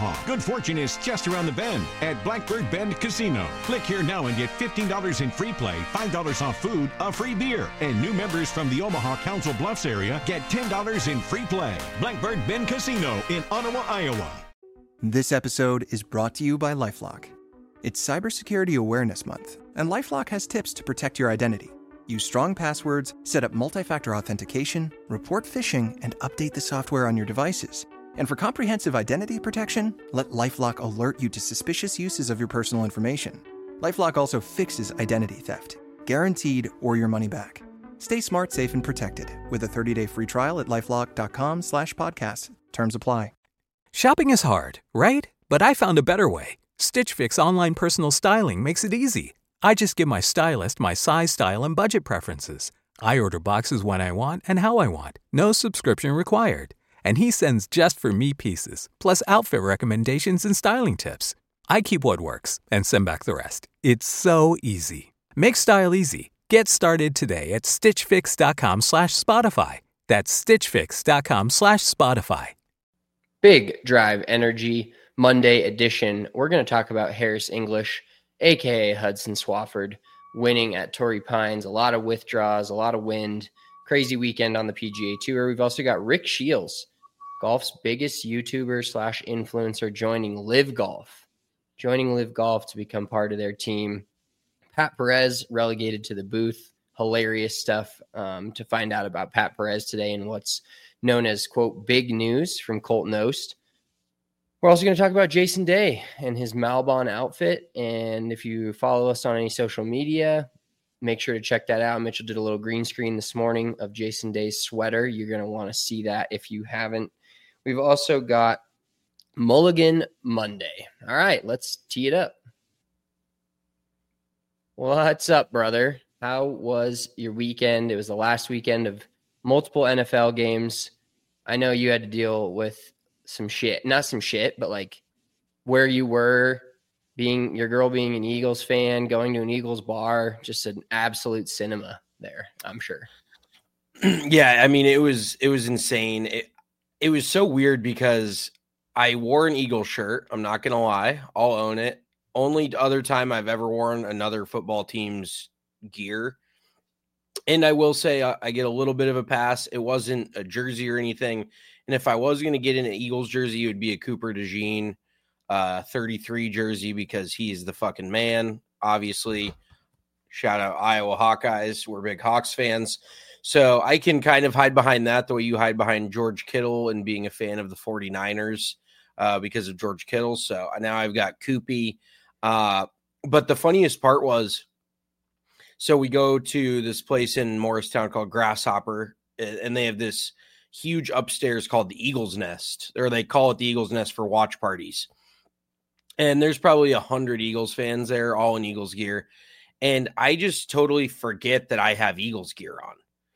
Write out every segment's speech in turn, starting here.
Omaha. Good fortune is just around the bend at Blackbird Bend Casino. Click here now and get $15 in free play, $5 off food, a free beer. And new members from the Omaha Council Bluffs area get $10 in free play. Blackbird Bend Casino in Ottawa, Iowa. This episode is brought to you by LifeLock. It's Cybersecurity Awareness Month, and LifeLock has tips to protect your identity. Use strong passwords, set up multi-factor authentication, report phishing, and update the software on your devices. And for comprehensive identity protection, let LifeLock alert you to suspicious uses of your personal information. LifeLock also fixes identity theft, guaranteed or your money back. Stay smart, safe, and protected with a 30-day free trial at LifeLock.com/podcast. Terms apply. Shopping is hard, right? But I found a better way. Stitch Fix online personal styling makes it easy. I just give my stylist my size, style, and budget preferences. I order boxes when I want and how I want. No subscription required. And he sends just for me pieces, plus outfit recommendations and styling tips. I keep what works and send back the rest. It's so easy. Make style easy. Get started today at stitchfix.com/Spotify. That's stitchfix.com/Spotify. Big Drive Energy Monday edition. We're going to talk about Harris English, a.k.a. Hudson Swafford, winning at Torrey Pines. A lot of withdraws, a lot of wind. Crazy weekend on the PGA Tour. We've also got Rick Shields, golf's biggest YouTuber/influencer, joining Live Golf to become part of their team. Pat Perez relegated to the booth. Hilarious stuff to find out about Pat Perez today and what's known as, quote, big news from Colton Oast. We're also going to talk about Jason Day and his Malbon outfit. And if you follow us on any social media, make sure to check that out. Mitchell did a little green screen this morning of Jason Day's sweater. You're going to want to see that if you haven't. We've also got Mulligan Monday. All right, let's tee it up. What's up, brother? How was your weekend? It was the last weekend of multiple NFL games. I know you had to deal with some shit. Not some shit, but like where you were, being your girl being an Eagles fan, going to an Eagles bar, just an absolute cinema there, I'm sure. Yeah, I mean, it was insane. It was so weird because I wore an Eagles shirt. I'm not going to lie. I'll own it. Only other time I've ever worn another football team's gear. And I will say I get a little bit of a pass. It wasn't a jersey or anything. And if I was going to get in an Eagles jersey, it would be a Cooper DeJean 33 jersey because he's the fucking man. Obviously, shout out Iowa Hawkeyes. We're big Hawks fans. So I can kind of hide behind that the way you hide behind George Kittle and being a fan of the 49ers because of George Kittle. So now I've got Koopy. But the funniest part was, so we go to this place in Morristown called Grasshopper, and they have this huge upstairs called the Eagles Nest, or they call it the Eagles Nest for watch parties. And there's probably 100 Eagles fans there, all in Eagles gear. And I just totally forget that I have Eagles gear on.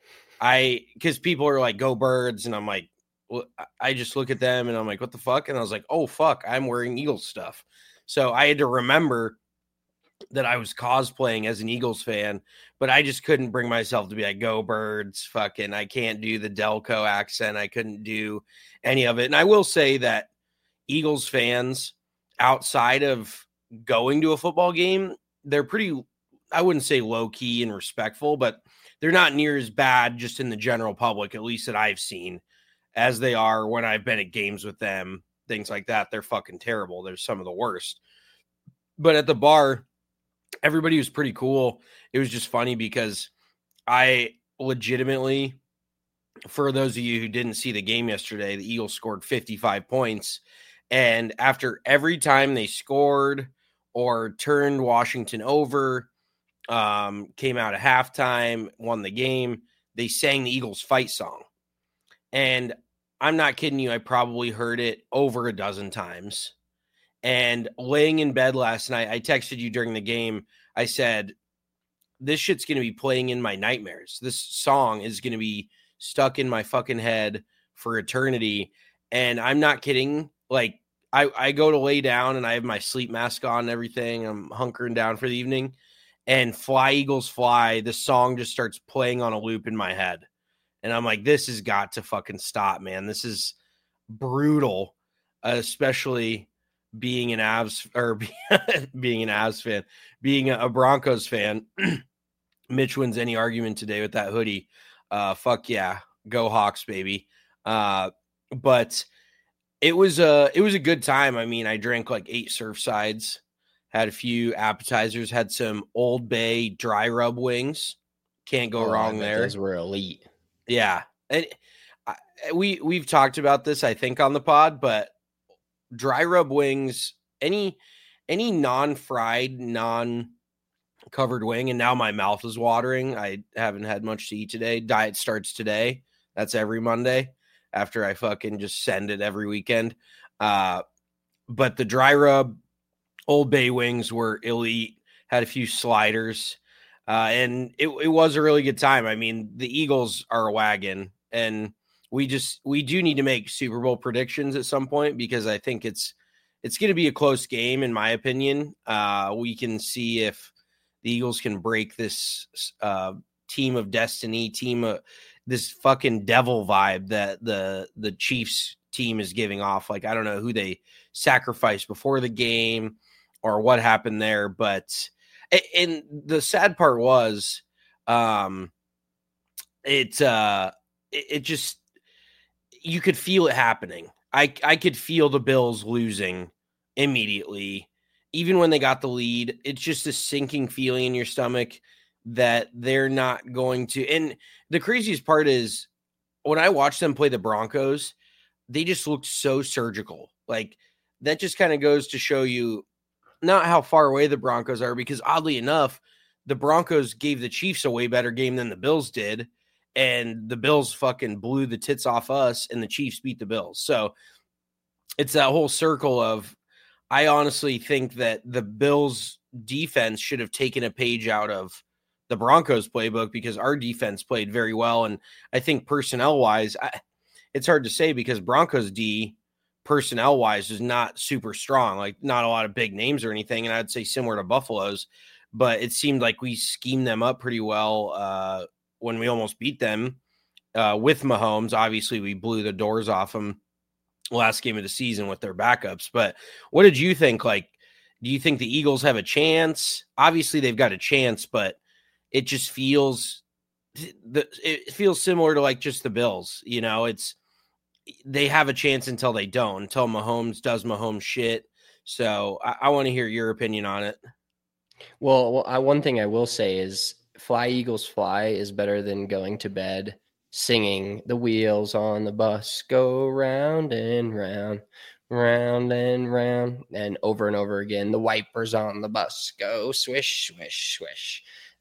Because people are like, go Birds. And I'm like, well, I just look at them and I'm like, what the fuck? And I was like, oh, fuck, I'm wearing Eagles stuff. So I had to remember that I was cosplaying as an Eagles fan, but I just couldn't bring myself to be like, go Birds, fucking, I can't do the Delco accent. I couldn't do any of it. And I will say that Eagles fans outside of going to a football game, they're pretty, I wouldn't say low key and respectful, but they're not near as bad just in the general public, at least that I've seen, as they are when I've been at games with them, things like that. They're fucking terrible. They're some of the worst. But at the bar, everybody was pretty cool. It was just funny because I legitimately, for those of you who didn't see the game yesterday, the Eagles scored 55 points. And after every time they scored or turned Washington over, came out at halftime, won the game, they sang the Eagles fight song. And I'm not kidding you, I probably heard it over a dozen times. And laying in bed last night, I texted you during the game. I said, this shit's going to be playing in my nightmares. This song is going to be stuck in my fucking head for eternity. And I'm not kidding. Like, I go to lay down and I have my sleep mask on and everything. I'm hunkering down for the evening. And Fly Eagles Fly, the song just starts playing on a loop in my head. And I'm like, this has got to fucking stop, man. This is brutal, especially being an Avs or being an Avs fan, being a Broncos fan, Mitch wins any argument today with that hoodie. Fuck yeah, go Hawks, baby. But it was a good time. I mean, I drank like 8 Surfsides, had a few appetizers, had some Old Bay dry rub wings. Can't go wrong there. Those were elite. Yeah, and we've talked about this, I think, on the pod, but dry rub wings, any non-fried, non-covered wing, and now my mouth is watering. I haven't had much to eat today. Diet starts today. That's every Monday after I fucking just send it every weekend. But the dry rub Old Bay wings were elite. Had a few sliders. And it was a really good time. I mean, the Eagles are a wagon, and we do need to make Super Bowl predictions at some point, because I think it's going to be a close game, in my opinion. We can see if the Eagles can break this team of destiny, this fucking devil vibe that the Chiefs team is giving off. Like, I don't know who they sacrificed before the game or what happened there, but and the sad part was, it just, you could feel it happening. I could feel the Bills losing immediately, even when they got the lead. It's just a sinking feeling in your stomach that they're not going to. And the craziest part is, when I watched them play the Broncos, they just looked so surgical. Like, that just kind of goes to show you not how far away the Broncos are, because oddly enough, the Broncos gave the Chiefs a way better game than the Bills did, and the Bills fucking blew the tits off us, and the Chiefs beat the Bills. So it's that whole circle of, I honestly think that the Bills defense should have taken a page out of the Broncos playbook, because our defense played very well. And I think personnel wise, it's hard to say, because Broncos D personnel wise is not super strong, like not a lot of big names or anything. And I'd say similar to Buffalo's, but it seemed like we schemed them up pretty well when we almost beat them with Mahomes. Obviously we blew the doors off them last game of the season with their backups. But what did you think? Like, do you think the Eagles have a chance? Obviously they've got a chance, but it just feels similar to like just the Bills. You know, they have a chance until they don't, until Mahomes does Mahomes shit. So I want to hear your opinion on it. Well, one thing I will say is, Fly Eagles Fly is better than going to bed singing "The wheels on the bus go round and round, round and round," and over again. "The wipers on the bus go swish, swish, swish."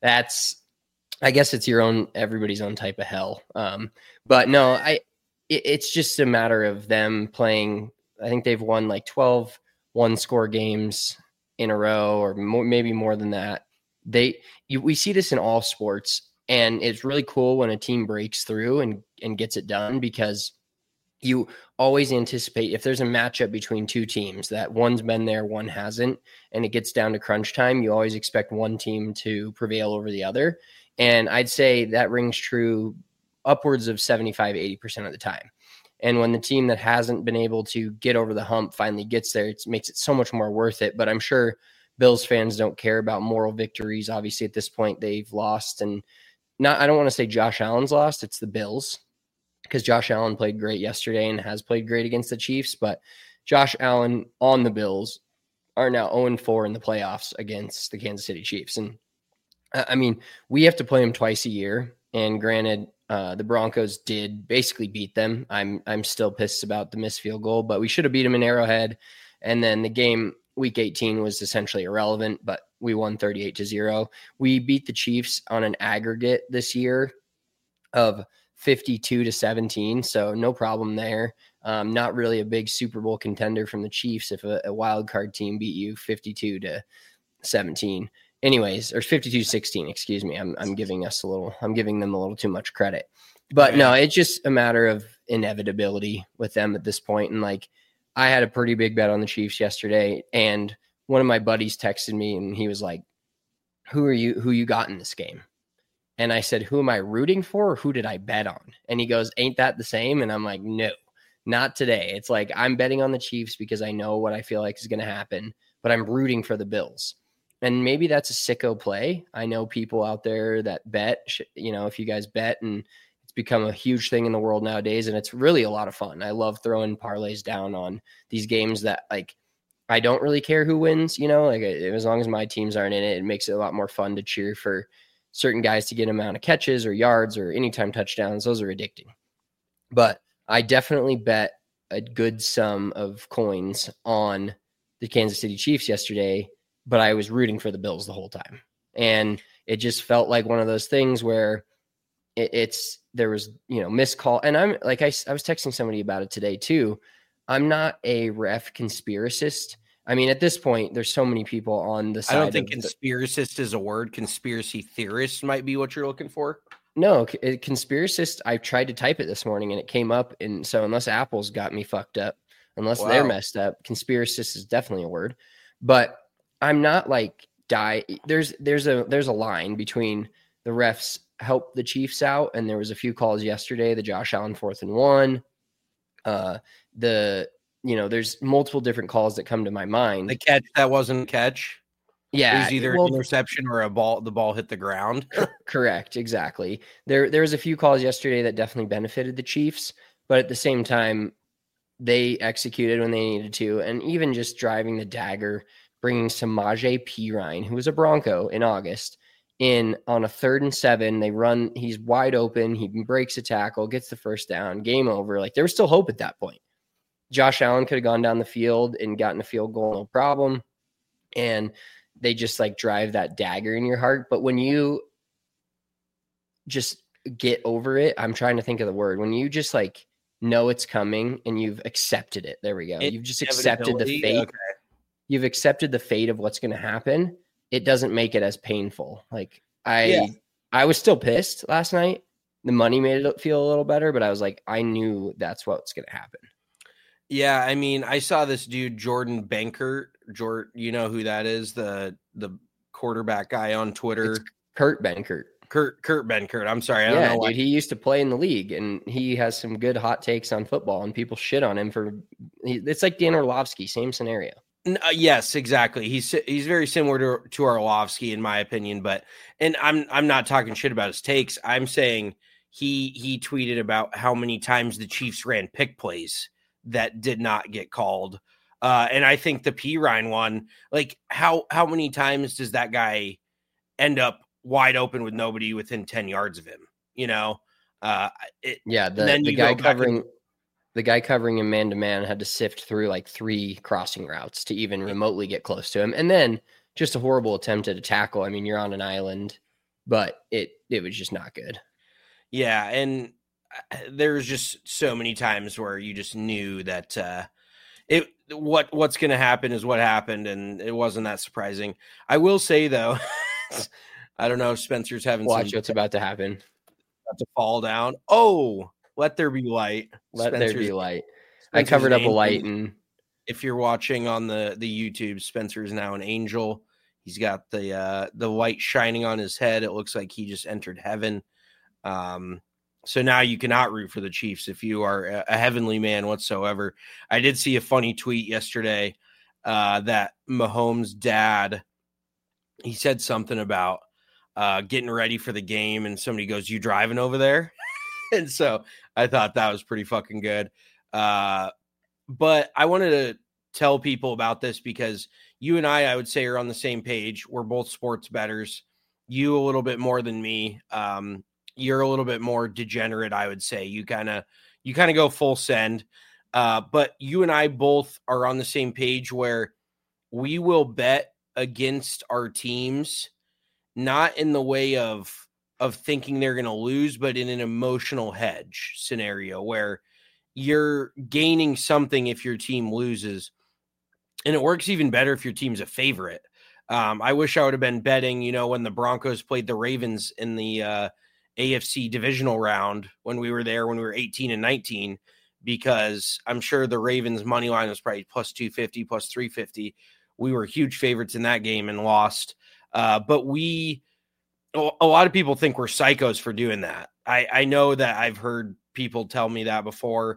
I guess it's everybody's own type of hell. But no, it's just a matter of them playing. I think they've won like 12 one-score games in a row, or maybe more than that. We see this in all sports, and it's really cool when a team breaks through and gets it done, because you always anticipate, if there's a matchup between two teams that one's been there, one hasn't, and it gets down to crunch time, you always expect one team to prevail over the other. And I'd say that rings true upwards of 75, 80% of the time. And when the team that hasn't been able to get over the hump finally gets there, it makes it so much more worth it. But I'm sure Bills fans don't care about moral victories. Obviously, at this point, they've lost. And I don't want to say Josh Allen's lost. It's the Bills, because Josh Allen played great yesterday and has played great against the Chiefs. But Josh Allen on the Bills are now 0-4 in the playoffs against the Kansas City Chiefs. And I mean, we have to play them twice a year. And granted, the Broncos did basically beat them. I'm still pissed about the missed field goal, but we should have beat them in Arrowhead. And then the game week 18 was essentially irrelevant, but we won 38-0. We beat the Chiefs on an aggregate this year of 52-17. So no problem there. Not really a big Super Bowl contender from the Chiefs if a wild card team beat you 52-17. Anyways, or 52-16, excuse me. I'm giving them a little too much credit. But no, it's just a matter of inevitability with them at this point. And like, I had a pretty big bet on the Chiefs yesterday, and one of my buddies texted me and he was like, who you got in this game? And I said, who am I rooting for, or who did I bet on? And he goes, ain't that the same? And I'm like, no, not today. It's like I'm betting on the Chiefs because I know what I feel like is going to happen, but I'm rooting for the Bills. And maybe that's a sicko play. I know people out there that bet, if you guys bet, and it's become a huge thing in the world nowadays, and it's really a lot of fun. I love throwing parlays down on these games that, like, I don't really care who wins, as long as my teams aren't in it, it makes it a lot more fun to cheer for certain guys to get an amount of catches or yards or anytime touchdowns. Those are addicting. But I definitely bet a good sum of coins on the Kansas City Chiefs yesterday, but I was rooting for the Bills the whole time. And it just felt like one of those things where there was, missed call. And I'm like, I was texting somebody about it today too. I'm not a ref conspiracist. I mean, at this point, there's so many people on the side. I don't think conspiracist is a word. Conspiracy theorist might be what you're looking for. No, conspiracist, I tried to type it this morning and it came up. And so unless Apple's got me fucked up, unless they're messed up, conspiracist is definitely a word. But I'm not like there's a line between the refs help the Chiefs out, and there was a few calls yesterday, the Josh Allen 4th and 1. There's multiple different calls that come to my mind. The catch that wasn't a catch. Yeah, it was either an interception or the ball hit the ground. Correct, exactly. There was a few calls yesterday that definitely benefited the Chiefs, but at the same time, they executed when they needed to, and even just driving the dagger, bringing Samaje Perine, who was a Bronco in August, in on a 3rd and 7. They run, he's wide open, he breaks a tackle, gets the first down, game over. Like, there was still hope at that point. Josh Allen could have gone down the field and gotten a field goal, no problem. And they just like drive that dagger in your heart. But when you just get over it, I'm trying to think of the word, when you just like know it's coming and you've accepted it. There we go. You've just accepted the fate. Okay. You've accepted the fate of what's going to happen. It doesn't make it as painful. Like I was still pissed last night. The money made it feel a little better, but I was like, I knew that's what's going to happen. Yeah, I mean, I saw this dude, Jordan Bankert. You know who that is? The quarterback guy on Twitter. It's Kurt Benkert. Kurt Benkert. I'm sorry. I don't know. Dude, he used to play in the league, and he has some good hot takes on football, and people shit on him for. It's like Dan Orlovsky, same scenario. Yes, exactly. He's very similar to Orlovsky in my opinion, and I'm not talking shit about his takes. I'm saying he tweeted about how many times the Chiefs ran pick plays that did not get called. And I think the Perine one, like how many times does that guy end up wide open with nobody within 10 yards of him? The guy covering him man to man had to sift through like 3 crossing routes to even remotely get close to him. And then just a horrible attempt at a tackle. I mean, you're on an island, but it was just not good. Yeah. And there's just so many times where you just knew that what's going to happen is what happened, and it wasn't that surprising. I will say though, I don't know if Spencer's having watch what's about to happen. About to fall down. Oh, let there be light. There be light. I covered up a light, and if you're watching on the YouTube, Spencer is now an angel. He's got the light shining on his head. It looks like he just entered heaven. So now you cannot root for the Chiefs if you are a heavenly man whatsoever. I did see a funny tweet yesterday that Mahomes' dad, he said something about getting ready for the game, and somebody goes, "You driving over there?" And so I thought that was pretty fucking good. But I wanted to tell people about this because you and I would say, are on the same page. We're both sports bettors. You a little bit more than me. You're a little bit more degenerate, I would say. You kind of go full send. But you and I both are on the same page where we will bet against our teams, not in the way of thinking they're going to lose, but in an emotional hedge scenario where you're gaining something if your team loses. And it works even better if your team's a favorite. I wish I would have been betting, when the Broncos played the Ravens in the AFC divisional round when we were 18 and 19, because I'm sure the Ravens money line was probably plus 250, plus 350. We were huge favorites in that game and lost. But a lot of people think we're psychos for doing that. I know that I've heard people tell me that before.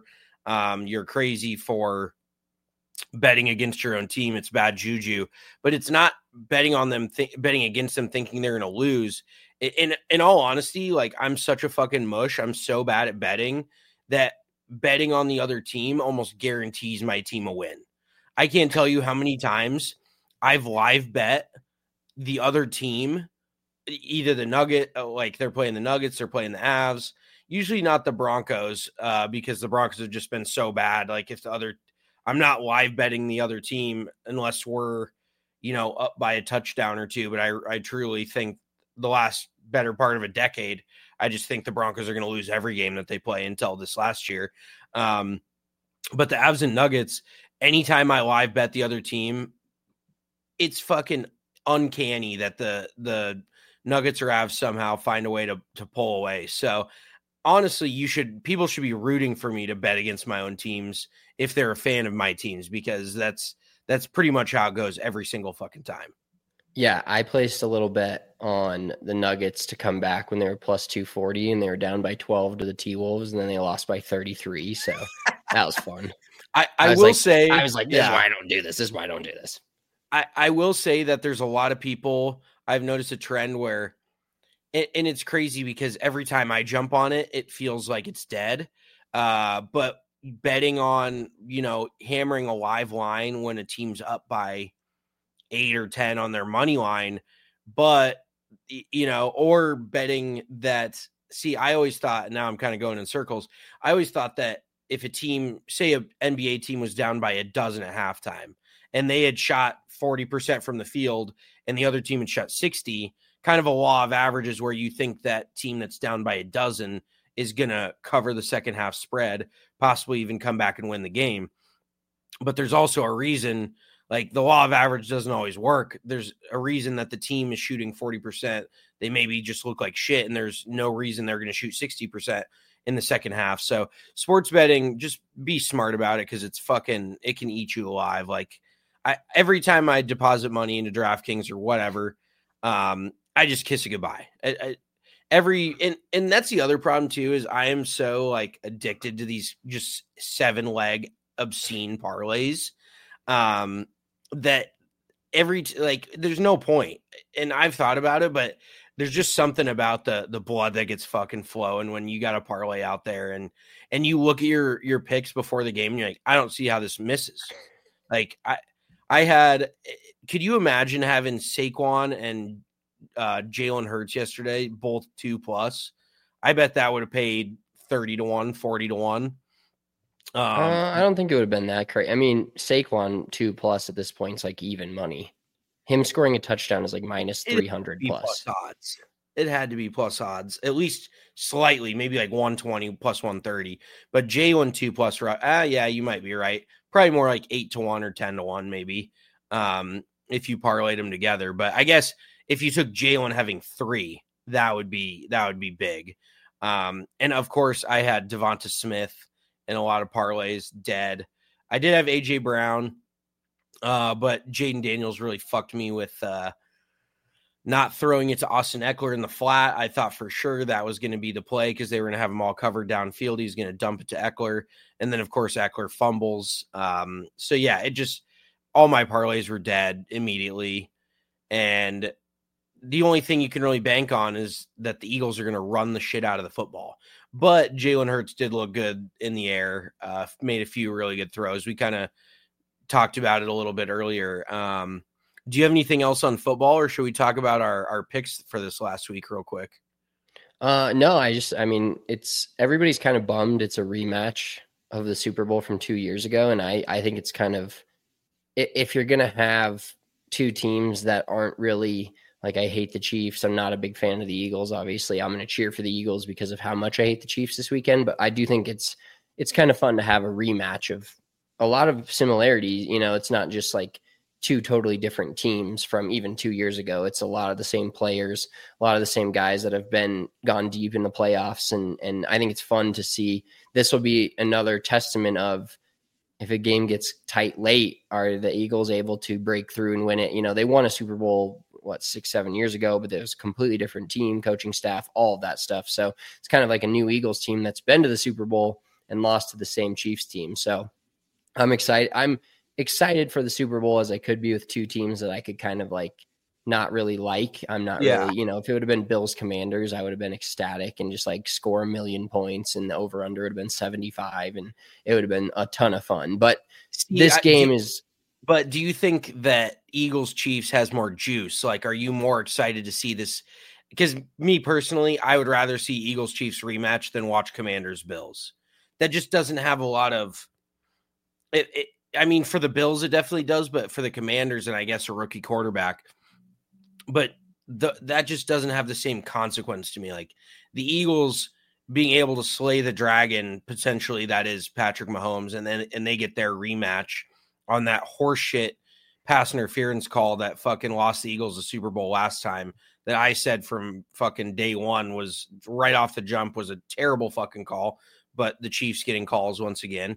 You're crazy for betting against your own team. It's bad juju, but it's not betting on them, betting against them thinking they're going to lose. In all honesty, like, I'm such a fucking mush. I'm so bad at betting that betting on the other team almost guarantees my team a win. I can't tell you how many times I've live bet the other team, either the Nugget, like they're playing the Nuggets, they're playing the Avs, usually not the Broncos, because the Broncos have just been so bad. Like, if I'm not live betting the other team unless we're, up by a touchdown or two. But I truly think the last better part of a decade, I just think the Broncos are going to lose every game that they play until this last year. But the Avs and Nuggets, anytime I live bet the other team, it's fucking uncanny that the Nuggets or Avs somehow find a way to pull away. So honestly, people should be rooting for me to bet against my own teams if they're a fan of my teams, because that's pretty much how it goes every single fucking time. Yeah, I placed a little bet on the Nuggets to come back when they were plus 240 and they were down by 12 to the T-Wolves, and then they lost by 33. So that was fun. I will say, I was like, this is why I don't do this. This is why I don't do this. I will say that there's a lot of people, I've noticed a trend where, and it's crazy because every time I jump on it, it feels like it's dead. But betting on, hammering a live line when a team's up by 8 or 10 on their money line, but, or betting that, see, I always thought, and now I'm kind of going in circles, I always thought that if a team, say an NBA team was down by a dozen at halftime and they had shot 40% from the field and the other team had shot 60, kind of a law of averages where you think that team that's down by a dozen is going to cover the second half spread, possibly even come back and win the game. But there's also a reason, like, the law of average doesn't always work. There's a reason that the team is shooting 40%. They maybe just look like shit, and there's no reason they're going to shoot 60% in the second half. So sports betting, just be smart about it, because it can eat you alive. Like, every time I deposit money into DraftKings or whatever, I just kiss it goodbye. And that's the other problem too, is I am so, like, addicted to these just 7-leg obscene parlays, that there's no point. And I've thought about it, but there's just something about the blood that gets fucking flowing when you got a parlay out there and you look at your picks before the game and you're like, I don't see how this misses. Like, could you imagine having Saquon and Jalen Hurts yesterday, both 2+? I bet that would have paid 30-1, 40-1. I don't think it would have been that crazy. I mean, Saquon 2+ at this point is like even money. Him scoring a touchdown is like minus 300 plus odds. It had to be plus odds, at least slightly, maybe like 120 plus 130. But Jalen 2+, yeah, you might be right. Probably more like 8-1 or 10-1, maybe, if you parlayed them together. But I guess if you took Jalen having 3, that would be big. And of course, I had Devonta Smith and a lot of parlays dead. I did have AJ Brown, but Jaden Daniels really fucked me with not throwing it to Austin Eckler in the flat. I thought for sure that was going to be the play because they were going to have him all covered downfield. He's going to dump it to Eckler. And then, of course, Eckler fumbles. So, yeah, all my parlays were dead immediately. And the only thing you can really bank on is that the Eagles are going to run the shit out of the football. But Jalen Hurts did look good in the air, made a few really good throws. We kind of talked about it a little bit earlier. Do you have anything else on football, or should we talk about our picks for this last week real quick? No, everybody's kind of bummed. It's a rematch of the Super Bowl from 2 years ago. And I think it's kind of, if you're going to have two teams that aren't really, like, I hate the Chiefs. I'm not a big fan of the Eagles. Obviously, I'm going to cheer for the Eagles because of how much I hate the Chiefs this weekend. But I do think it's kind of fun to have a rematch of a lot of similarities. It's not just like two totally different teams from even 2 years ago. It's a lot of the same players, a lot of the same guys that have gone deep in the playoffs. And I think it's fun to see. This will be another testament of, if a game gets tight late, are the Eagles able to break through and win it? They won a Super Bowl, 6-7 years ago, but it was a completely different team, coaching staff, all of that stuff. So it's kind of like a new Eagles team that's been to the Super Bowl and lost to the same Chiefs team. So I'm excited. I'm excited for the Super Bowl as I could be with two teams that I could kind of like not really like. I'm not really, if it would have been Bills Commanders, I would have been ecstatic and just like score 1 million points, and the over under would have been 75, and it would have been a ton of fun. But But do you think that Eagles Chiefs has more juice? Like, are you more excited to see this? Because me personally, I would rather see Eagles Chiefs rematch than watch Commanders Bills. That just doesn't have a lot of it. I mean, for the Bills, it definitely does, but for the Commanders and I guess a rookie quarterback, but that just doesn't have the same consequence to me. Like the Eagles being able to slay the dragon, potentially that is Patrick Mahomes, and they get their rematch on that horseshit pass interference call that fucking lost the Eagles the Super Bowl last time, that I said from fucking day one was right off the jump was a terrible fucking call, but the Chiefs getting calls once again.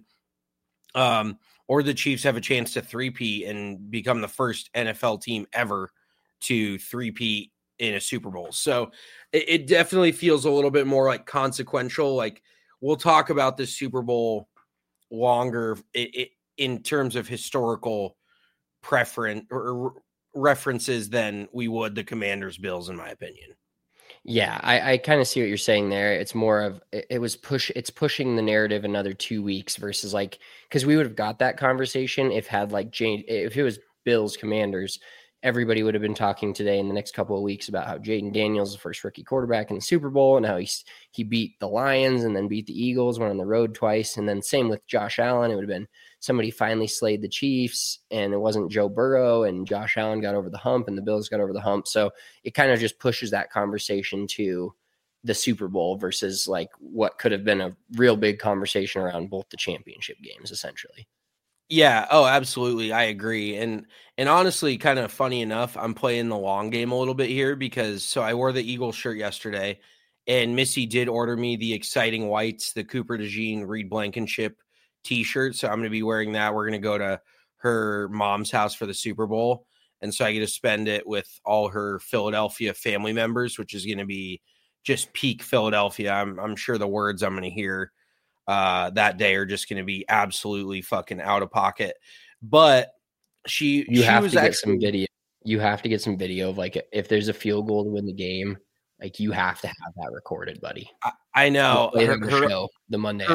Or the Chiefs have a chance to three-peat and become the first NFL team ever to three-peat in a Super Bowl. So it definitely feels a little bit more like consequential. Like we'll talk about this Super Bowl longer in terms of historical preference or references than we would the Commanders Bills, in my opinion. Yeah, I kind of see what you're saying there. It's more of it's pushing the narrative another 2 weeks versus like, because we would have got that conversation if it was Bills Commanders, everybody would have been talking today in the next couple of weeks about how Jaden Daniels is the first rookie quarterback in the Super Bowl and how he beat the Lions and then beat the Eagles, went on the road twice. And then same with Josh Allen. It would have been somebody finally slayed the Chiefs and it wasn't Joe Burrow, and Josh Allen got over the hump and the Bills got over the hump. So it kind of just pushes that conversation to the Super Bowl versus like what could have been a real big conversation around both the championship games, essentially. Yeah. Oh, absolutely. I agree. And honestly, kind of funny enough, I'm playing the long game a little bit here because I wore the Eagles shirt yesterday and Missy did order me the Exciting Whites, the Cooper DeJean, Reed Blankenship t-shirt. So I'm going to be wearing that. We're going to go to her mom's house for the Super Bowl. And so I get to spend it with all her Philadelphia family members, which is going to be just peak Philadelphia. I'm sure the words I'm going to hear that day are just going to be absolutely fucking out of pocket. But you have to get some video. You have to get some video of like if there's a field goal to win the game, like you have to have that recorded, buddy. I know the Monday.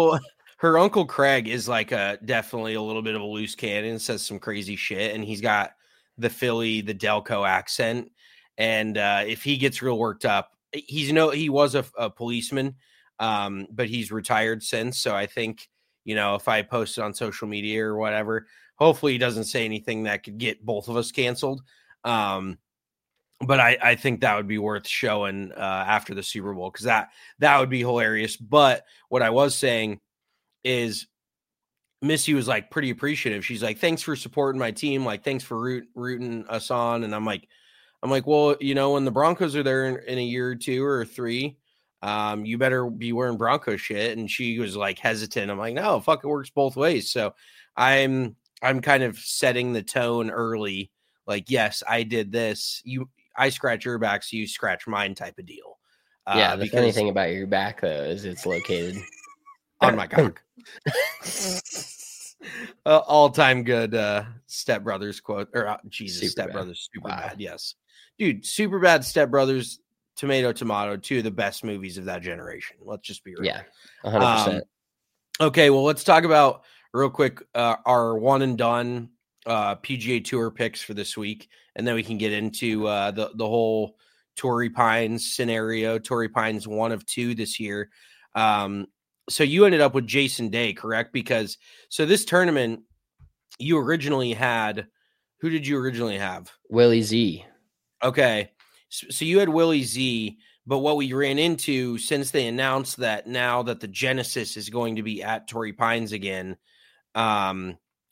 Her uncle Craig is like definitely a little bit of a loose cannon, says some crazy shit, and he's got the Delco accent. And if he gets real worked up, he was a policeman. But he's retired since. So I think, if I post it on social media or whatever, hopefully he doesn't say anything that could get both of us canceled. But I think that would be worth showing after the Super Bowl, because that would be hilarious. But what I was saying is Missy was like pretty appreciative. She's like, thanks for supporting my team. Like, thanks for rooting us on. And I'm like, well, when the Broncos are there in a year or 2 or 3, you better be wearing Bronco shit. And she was like hesitant. I'm like, no, fuck, it works both ways. So I'm kind of setting the tone early. Like, yes, I did this. I scratch your back, so you scratch mine type of deal. Yeah. The funny thing about your back though, is it's located on my cock. All-time good Step Brothers quote, or Jesus, Step Brothers, super bad. Yes, dude, super bad Step Brothers, Tomato, 2 of the best movies of that generation. Let's just be real. Yeah, 100%. Okay, well, let's talk about real quick our one and done PGA Tour picks for this week, and then we can get into the whole Torrey Pines scenario. Torrey Pines 1 of 2 this year. So you ended up with Jason Day, correct? Because this tournament, you originally had, who did you originally have? Willie Z. Okay. So you had Willie Z, but what we ran into since they announced that now that the Genesis is going to be at Torrey Pines again, now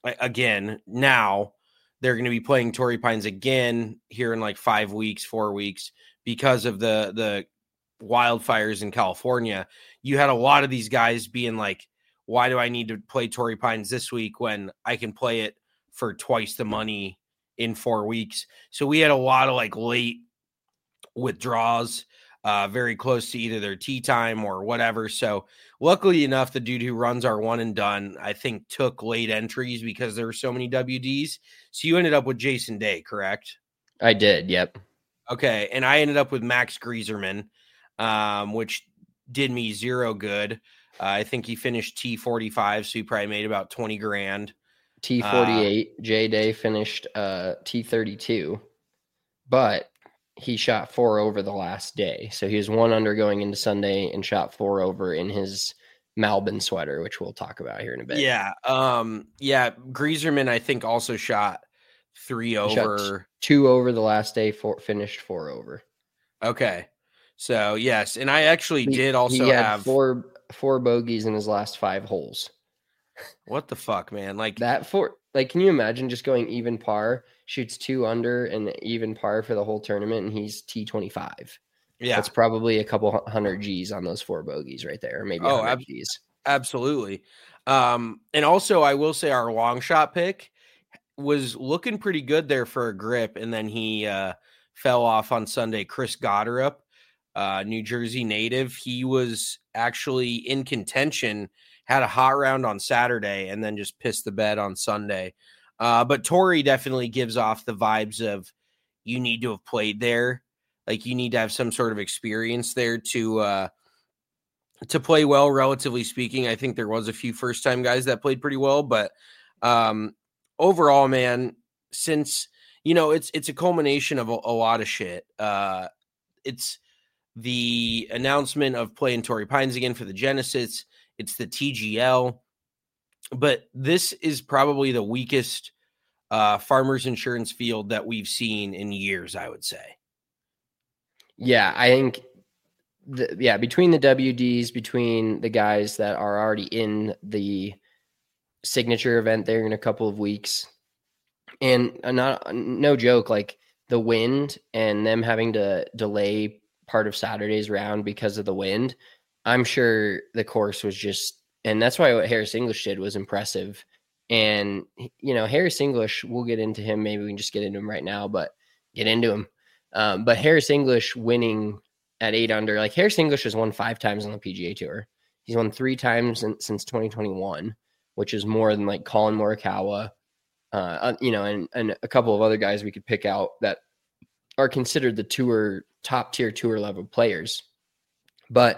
they're going to be playing Torrey Pines again here in like 4 weeks, because of the wildfires in California. You had a lot of these guys being like, why do I need to play Torrey Pines this week when I can play it for twice the money in 4 weeks? So we had a lot of like late withdrawals. very close to either their tee time or whatever. So luckily enough, the dude who runs our one and done, I think, took late entries because there were so many WDs. So you ended up with Jason Day, correct? I did. Yep. Okay. And I ended up with Max Grieserman, which did me zero good. I think he finished T45, so he probably made about 20 grand. T48. J Day finished T32, but he shot 4 over the last day. So he was 1 under going into Sunday and shot 4 over in his Malbon sweater, which we'll talk about here in a bit. Yeah. Grieserman, I think, also shot 3 over. Shot 2 over the last day, finished 4 over. Okay. So, yes. And I actually did also have four bogeys in his last 5 holes. What the fuck, man? Like that can you imagine just going even par, shoots 2 under and even par for the whole tournament, and he's T25. Yeah. That's probably a couple 100 G's on those 4 bogeys right there, or maybe 100 G's. Absolutely. And also I will say our long shot pick was looking pretty good there for a grip, and then he fell off on Sunday. Chris Goddard, New Jersey native. He was actually in contention, had a hot round on Saturday, and then just pissed the bed on Sunday. But Torrey definitely gives off the vibes of you need to have played there. Like you need to have some sort of experience there to play well, relatively speaking. I think there was a few first-time guys that played pretty well, but overall, man, since, it's a culmination of a lot of shit. It's the announcement of playing Torrey Pines again for the Genesis. It's the TGL, but this is probably the weakest farmers insurance field that we've seen in years, I would say. Yeah, I think, between the WDs, between the guys that are already in the signature event there in a couple of weeks, and no joke, like the wind and them having to delay part of Saturday's round because of the wind, I'm sure the course was just, and that's why what Harris English did was impressive. And, Harris English, we'll get into him. Maybe we can just get into him right now, but get into him. But Harris English winning at 8 under, like Harris English has won 5 times on the PGA Tour. He's won 3 times since 2021, which is more than like Colin Morikawa, and a couple of other guys we could pick out that are considered the top tier tour level players. But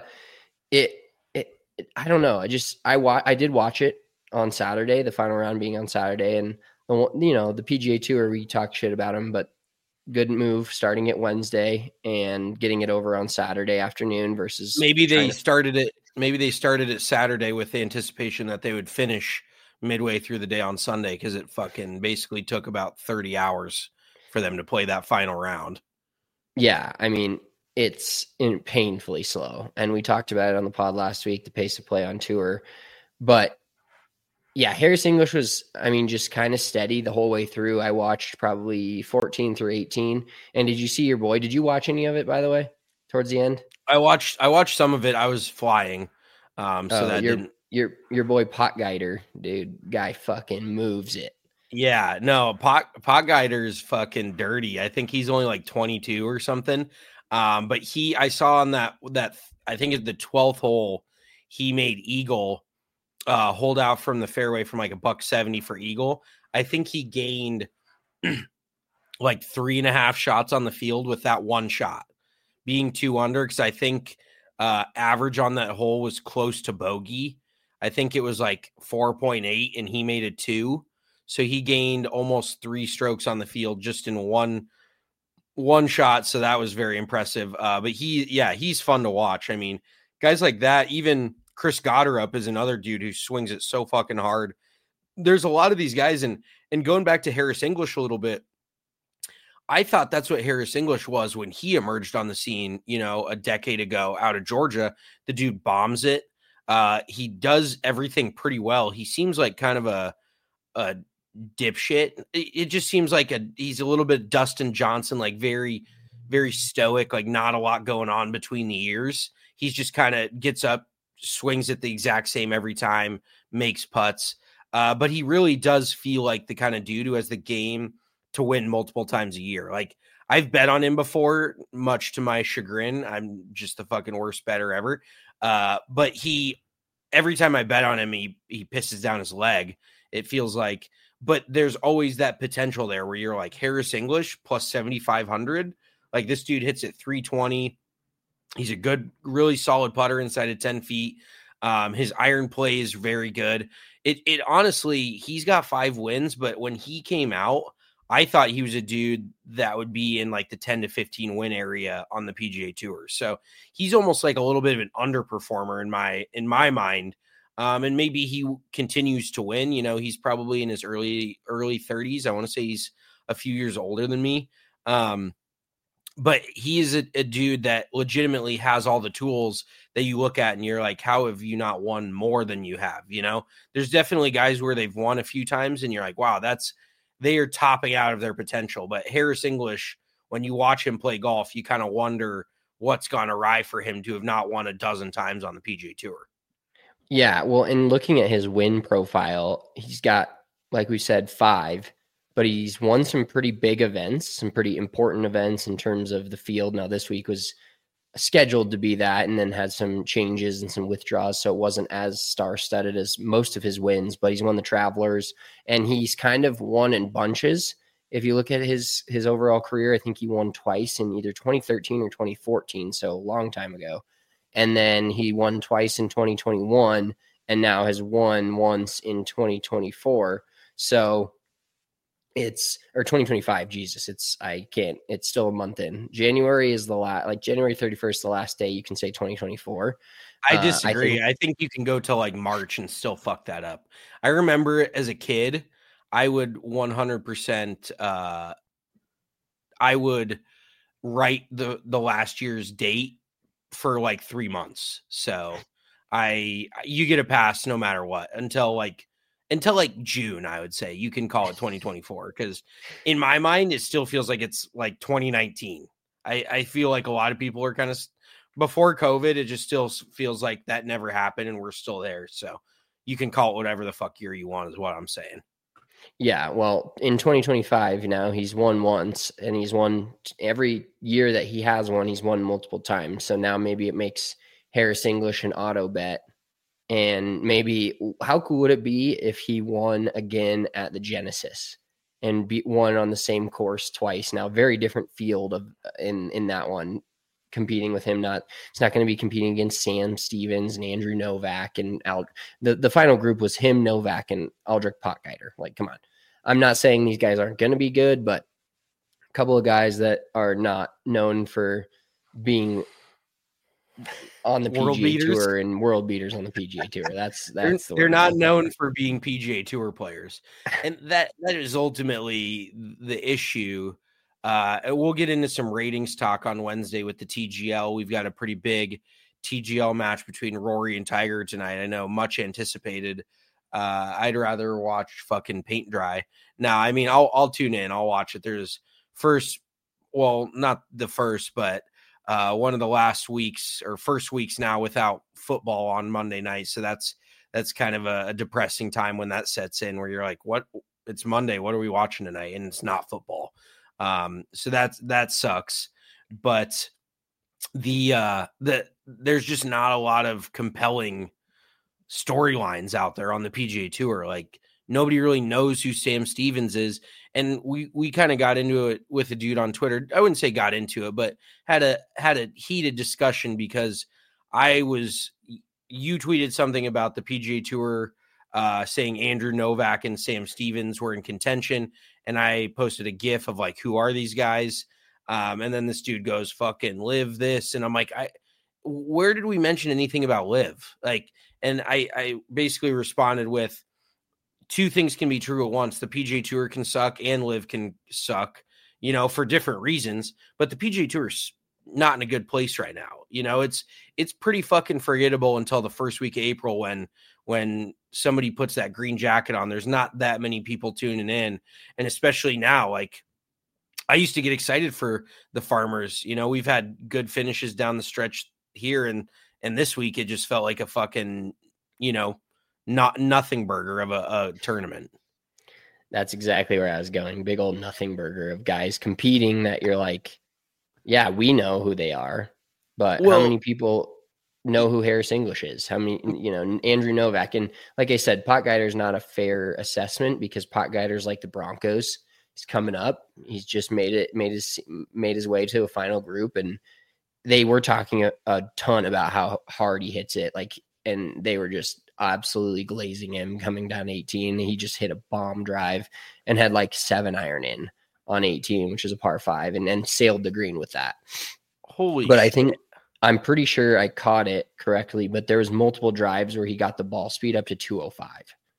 I don't know. I did watch it on Saturday, the final round being on Saturday, and the PGA Tour, we talk shit about them, but good move starting it Wednesday and getting it over on Saturday afternoon versus maybe they started it Saturday with the anticipation that they would finish midway through the day on Sunday, because it fucking basically took about 30 hours for them to play that final round. Yeah, I mean, it's painfully slow. And we talked about it on the pod last week, the pace of play on tour. But yeah, Harris English was, just kind of steady the whole way through. I watched probably 14 through 18. And did you see your boy? Did you watch any of it, by the way, towards the end? I watched some of it. I was flying. Your boy Potgieter, dude, guy fucking moves it. Yeah, no, Potgieter's fucking dirty. I think he's only like 22 or something. But I saw on that I think it's the 12th hole, he made eagle, hold out from the fairway from like $170 for eagle. I think he gained like 3.5 shots on the field with that one shot being 2 under. Cause I think, average on that hole was close to bogey. I think it was like 4.8 and he made it 2. So he gained almost 3 strokes on the field just in one shot. So that was very impressive. But he's fun to watch. I mean, guys like that, even Chris Goddard is another dude who swings it so fucking hard. There's a lot of these guys, and going back to Harris English a little bit, I thought that's what Harris English was when he emerged on the scene, a decade ago out of Georgia. The dude bombs it. He does everything pretty well. He seems like kind of a dipshit. It just seems like he's a little bit Dustin Johnson, like very, very stoic, like not a lot going on between the ears. He's just kind of gets up, swings it the exact same every time, makes putts. But he really does feel like the kind of dude who has the game to win multiple times a year. Like, I've bet on him before, much to my chagrin. I'm just the fucking worst better ever. But every time I bet on him, he pisses down his leg. It feels like, but there's always that potential there where you're like Harris English plus 7,500. Like, this dude hits at 320. He's a good, really solid putter inside of 10 feet. His iron play is very good. It honestly, he's got 5 wins, but when he came out, I thought he was a dude that would be in like the 10 to 15 win area on the PGA Tour. So he's almost like a little bit of an underperformer in my mind. And maybe he continues to win. You know, he's probably in his early 30s. I want to say he's a few years older than me. But he is a dude that legitimately has all the tools that you look at and you're like, how have you not won more than you have? You know, there's definitely guys where they've won a few times and you're like, wow, they are topping out of their potential. But Harris English, when you watch him play golf, you kind of wonder what's gone awry for him to have not won a dozen times on the PGA Tour. Yeah, well, in looking at his win profile, he's got, like we said, 5, but he's won some pretty big events, some pretty important events in terms of the field. Now, this week was scheduled to be that, and then had some changes and some withdrawals, so it wasn't as star-studded as most of his wins, but he's won the Travelers, and he's kind of won in bunches. If you look at his overall career, I think he won twice in either 2013 or 2014, so a long time ago. And then he won twice in 2021 and now has won once in 2024. So or 2025. Jesus, it's still a month in. January is January 31st, the last day you can say 2024. I disagree. I think you can go till like March and still fuck that up. I remember as a kid, I would 100%, I would write the last year's date for like 3 months. So you get a pass no matter what until like June. I would say you can call it 2024 because in my mind it still feels like it's like 2019. I feel like a lot of people are kind of before COVID. It just still feels like that never happened and we're still there. So you can call it whatever the fuck year you want is what I'm saying. Yeah, well, in 2025 now he's won once, and he's won every year that he has won. He's won multiple times. So now maybe it makes Harris English an auto bet. And maybe how cool would it be if he won again at the Genesis and won on the same course twice? Now, very different field in that one, competing with him. It's not going to be competing against Sam Stevens and Andrew Novak and the final group was him, Novak, and Aldrich Potgieter. Like, come on. I'm not saying these guys aren't going to be good, but a couple of guys that are not known for being on the PGA Tour and world beaters on the PGA Tour. They're not known for being PGA Tour players. And that is ultimately the issue. We'll get into some ratings talk on Wednesday with the TGL. We've got a pretty big TGL match between Rory and Tiger tonight. I know, much anticipated. I'd rather watch fucking paint dry. Now, I mean, I'll tune in. I'll watch it. There's not the first, but one of the last weeks or first weeks now without football on Monday night. So that's kind of a depressing time when that sets in where you're like, what? It's Monday. What are we watching tonight? And it's not football. So that sucks. But there's just not a lot of compelling storylines out there on the PGA Tour. Like, nobody really knows who Sam Stevens is. And we kind of got into it with a dude on Twitter. I wouldn't say got into it, but had a heated discussion because you tweeted something about the PGA Tour saying Andrew Novak and Sam Stevens were in contention. And I posted a GIF of like, who are these guys? And then this dude goes, fucking Liv this. And I'm like, where did we mention anything about Liv? Like, and I basically responded with, two things can be true at once. The PGA Tour can suck and Liv can suck, for different reasons. But the PGA Tour is not in a good place right now. It's pretty fucking forgettable until the first week of April when somebody puts that green jacket on. There's not that many people tuning in. And especially now, like, I used to get excited for the Farmers. We've had good finishes down the stretch here. And this week, it just felt like a fucking, nothing burger of a tournament. That's exactly where I was going. Big old nothing burger of guys competing that you're like, yeah, we know who they are, but how many people know who Harris English is? How many, Andrew Novak? And like I said, Potgieter is not a fair assessment because Potgieter's like the Broncos. He's coming up. He's just made his way to a final group, and they were talking a ton about how hard he hits it. And they were just absolutely glazing him coming down 18. He just hit a bomb drive and had like 7-iron in on 18, which is a par 5, and then sailed the green with that. But shit. I'm pretty sure I caught it correctly, but there was multiple drives where he got the ball speed up to 205.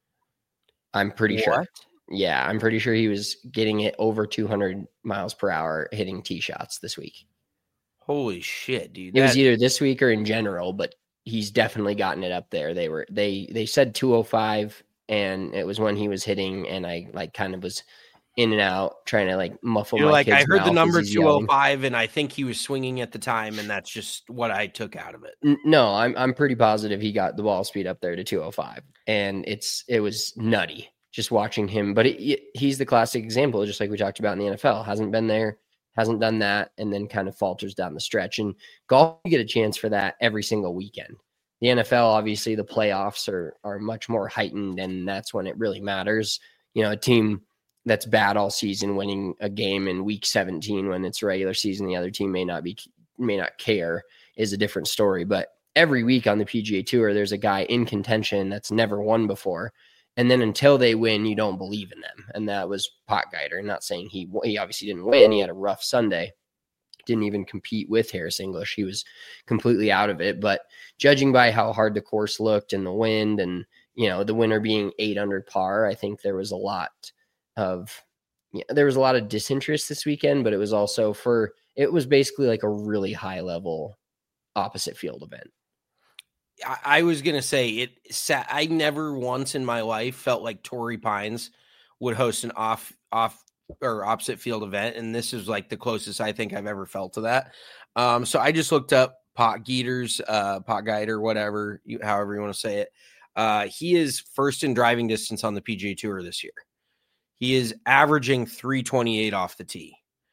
I'm pretty sure. Yeah, I'm pretty sure he was getting it over 200 miles per hour hitting tee shots this week. Holy shit, dude. It was either this week or in general, but he's definitely gotten it up there. They said 205, and it was when he was hitting, and I like kind of was in and out trying to like muffle my kid's I heard the number 205 yelling. and I think he was swinging at the time, and that's just what I took out of it. No, I'm pretty positive he got the ball speed up there to 205, and it was nutty just watching him. But he's the classic example, just like we talked about in the NFL. Hasn't been there, hasn't done that, and then kind of falters down the stretch. And golf, you get a chance for that every single weekend. The NFL, obviously, the playoffs are much more heightened, and that's when it really matters. A team that's bad all season winning a game in week 17 when it's regular season, the other team may not care, is a different story. But every week on the PGA Tour, there's a guy in contention that's never won before. And then until they win, you don't believe in them. And that was Potgieter. Not saying he obviously didn't win. He had a rough Sunday. Didn't even compete with Harris English. He was completely out of it. But judging by how hard the course looked and the wind and, the winner being 8 under par, I think there was a lot of disinterest this weekend, but it was also it was basically like a really high level opposite field event. I was going to say I never once in my life felt like Torrey Pines would host an off or opposite field event. And this is like the closest I think I've ever felt to that. So I just looked up Potgieter, whatever, however you want to say it. He is first in driving distance on the PGA Tour this year. He is averaging 328 off the tee,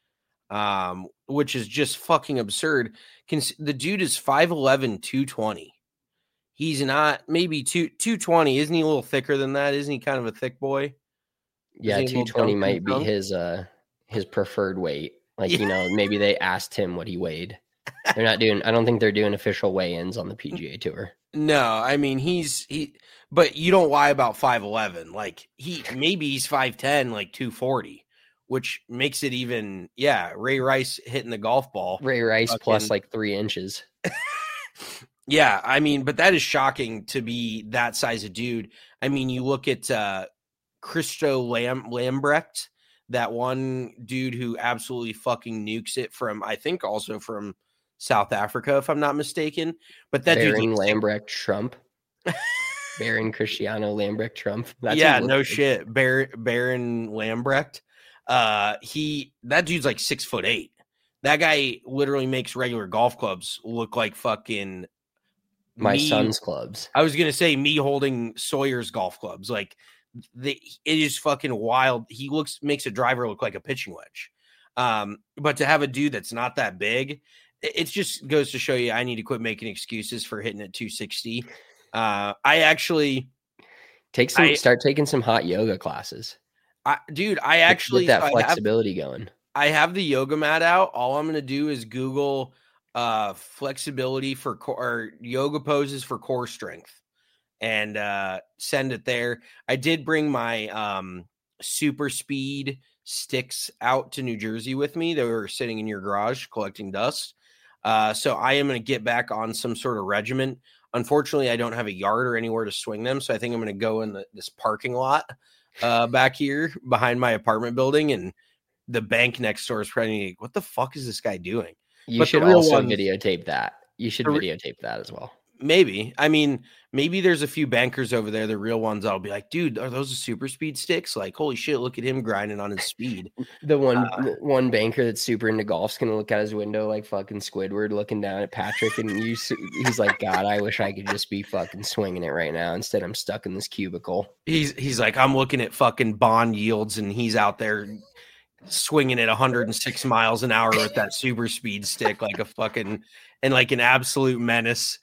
which is just fucking absurd. The dude is 5'11", 220. He's not maybe 220. Isn't he a little thicker than that? Isn't he kind of a thick boy? Yeah, 220 might be his preferred weight. Maybe they asked him what he weighed. I don't think they're doing official weigh-ins on the PGA Tour. No, I mean but you don't lie about 5'11". Like maybe he's 5'10", like 240, which makes it even. Yeah, Ray Rice hitting the golf ball. Ray Rice plus like 3 inches. Yeah, I mean, but that is shocking to be that size of dude. I mean, you look at Christo Lambrecht, that one dude who absolutely fucking nukes it I think also from South Africa, if I'm not mistaken. But that Baron Lambrecht Trump. Baron Cristiano Lambrecht Trump. No shit. Baron Lambrecht. That dude's like 6'8". That guy literally makes regular golf clubs look like fucking my son's clubs. I was gonna say me holding Sawyer's golf clubs. Like it is fucking wild. He makes a driver look like a pitching wedge. But to have a dude that's not that big, it just goes to show you I need to quit making excuses for hitting at 260. I actually start taking some hot yoga classes. I actually get that flexibility going. I have the yoga mat out. All I'm going to do is Google flexibility or yoga poses for core strength and send it there. I did bring my super speed sticks out to New Jersey with me. They were sitting in your garage collecting dust. So I am going to get back on some sort of regimen. Unfortunately, I don't have a yard or anywhere to swing them. So I think I'm going to go in this parking lot back here behind my apartment building, and the bank next door is probably like, what the fuck is this guy doing? You should also videotape that. You should videotape that as well. Maybe. I mean, maybe there's a few bankers over there, the real ones. I'll be like, dude, are those the super speed sticks? Like, holy shit, look at him grinding on his speed. The one banker that's super into golf's gonna look out his window like fucking Squidward, looking down at Patrick, and he's like, God, I wish I could just be fucking swinging it right now. Instead, I'm stuck in this cubicle. He's like, I'm looking at fucking bond yields, and he's out there swinging at 106 miles an hour with that super speed stick, like a fucking and like an absolute menace.